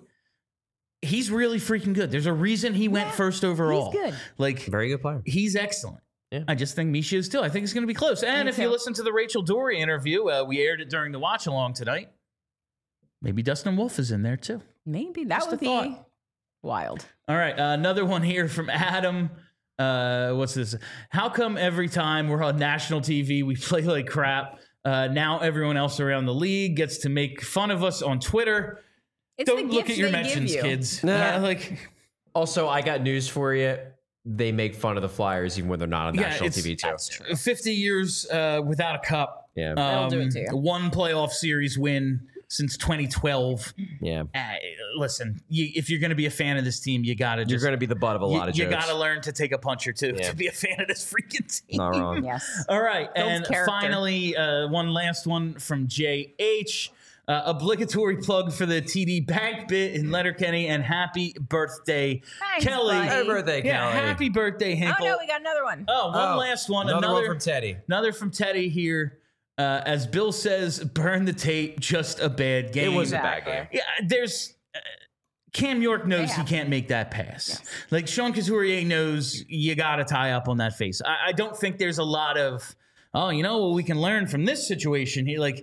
S1: He's really freaking good. There's a reason he went
S2: Yeah,
S1: first overall.
S2: he's good.
S1: Like
S3: very good player.
S1: he's excellent.
S3: Yeah.
S1: I just think Misha is too. I think it's going to be close. And
S2: Me
S1: if you
S2: too.
S1: listen to the Rachel Dory interview, uh, we aired it during the watch along tonight. Maybe Dustin Wolf is in there too.
S2: Maybe that
S1: Just a
S2: would be
S1: thought.
S2: wild.
S1: All right, uh, another one here from Adam. Uh, what's this? How come every time we're on national T V we play like crap? Uh, now everyone else around the league gets to make fun of us on Twitter.
S2: It's the
S1: Don't look
S2: gift
S1: at your
S2: they give
S1: mentions,
S2: you.
S1: kids.
S3: Nah.
S1: Uh, like,
S3: Also, I got news for you. They make fun of the Flyers even when they're not on
S1: Yeah,
S3: national
S1: it's-
S3: T V too.
S2: That's true.
S1: fifty years uh, without a cup.
S3: Yeah,
S2: That'll do it to you.
S1: One playoff series win since twenty twelve.
S3: yeah.
S1: Uh, listen, you, if you're going to be a fan of this team, you got to
S3: You're
S1: just
S3: going to be the butt of a lot
S1: you,
S3: of
S1: you
S3: jokes.
S1: got to learn to take a punch or two
S3: Yeah.
S1: to be a fan of this freaking team.
S3: Not wrong.
S2: Yes.
S1: All right,
S2: Builds
S1: and
S2: character.
S1: finally, uh, one last one from J H. Uh, obligatory plug for the T D Bank bit in Letterkenny, and happy birthday,
S2: Thanks,
S1: Kelly.
S2: buddy.
S3: Happy birthday,
S1: Yeah,
S3: Kelly.
S1: happy birthday, Hinkle.
S2: Oh no, we got another one.
S1: Oh, one
S3: Oh,
S1: last one.
S3: Another,
S1: Another,
S3: one from Teddy.
S1: another from Teddy here. Uh, as Bill says, burn the tape, just a bad game.
S3: It was a
S2: Exactly.
S3: bad game.
S1: Yeah, there's uh, Cam York knows
S2: They
S1: he
S2: have
S1: can't make that pass.
S2: Yes.
S1: Like Sean Couturier knows you got to tie up on that face. I, I don't think there's a lot of, oh, you know, well, we can learn from this situation here. Like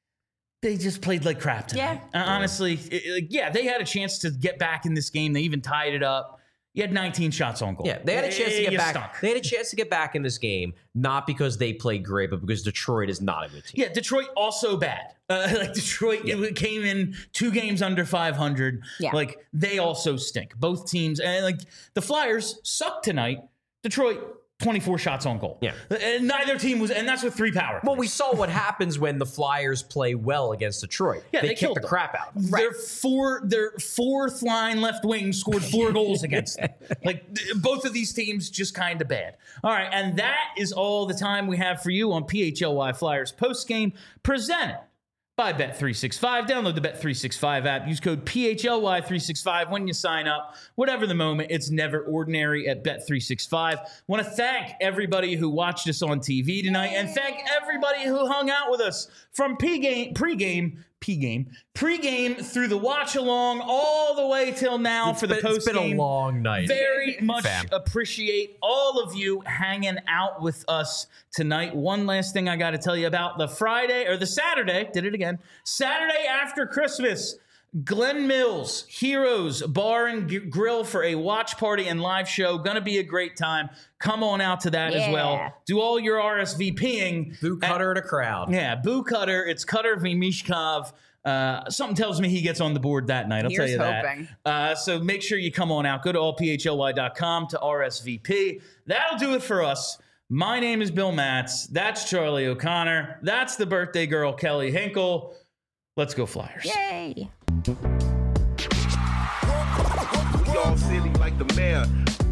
S1: they just played like crap tonight.
S2: Yeah.
S1: Uh, honestly, it- like, yeah, they had a chance to get back in this game. They even tied it up. You had nineteen shots on goal.
S3: Yeah, they had a chance to
S1: You
S3: get back.
S1: stunk.
S3: They had a chance to get back in this game, not because they played great, but because Detroit is not a good team.
S1: Yeah, Detroit also bad. Uh, like Detroit it came in two games under five hundred.
S2: Yeah.
S1: Like they also stink. Both teams, and like the Flyers suck tonight. Detroit twenty-four shots on goal.
S3: Yeah.
S1: And neither team was, and that's with three power.
S3: Well, we saw what happens when the Flyers play well against Detroit.
S1: Yeah,
S3: they,
S1: they
S3: kick
S1: killed
S3: the
S1: them.
S3: crap out.
S1: Their four, their fourth line left wing scored four goals against them. Like th- both of these teams, just kind of bad. All right, and that is all the time we have for you on P H L Y Flyers post game presented by Bet three sixty-five. Download the Bet three sixty-five app. Use code P H L Y three sixty-five when you sign up. Whatever the moment, it's never ordinary at Bet three sixty-five. Want to thank everybody who watched us on T V tonight, and thank everybody who hung out with us from P-game, pregame, P-game, pregame through the watch along all the way till now for the
S3: It's
S1: post game.
S3: been a long night.
S1: Very much
S3: Fam.
S1: appreciate all of you hanging out with us tonight. One last thing I got to tell you about the Friday or the Saturday, did it again, Saturday after Christmas, Glen Mills Heroes Bar and G- Grill for a watch party and live show. Gonna be a great time. Come on out to that as
S2: Yeah.
S1: well. Do all your R S V P ing.
S3: Boo Cutter in a crowd.
S1: Yeah, Boo Cutter. It's Cutter v. Mishkov. Uh, something tells me he gets on the board that night. I'll
S2: Here's
S1: tell you
S2: hoping.
S1: that. Uh, so make sure you come on out. Go to all p h l y dot com to R S V P. That'll do it for us. My name is Bill Matz. That's Charlie O'Connor. That's the birthday girl, Kelly Hinkle. Let's go Flyers.
S2: Yay.
S4: We're silly like the mayor.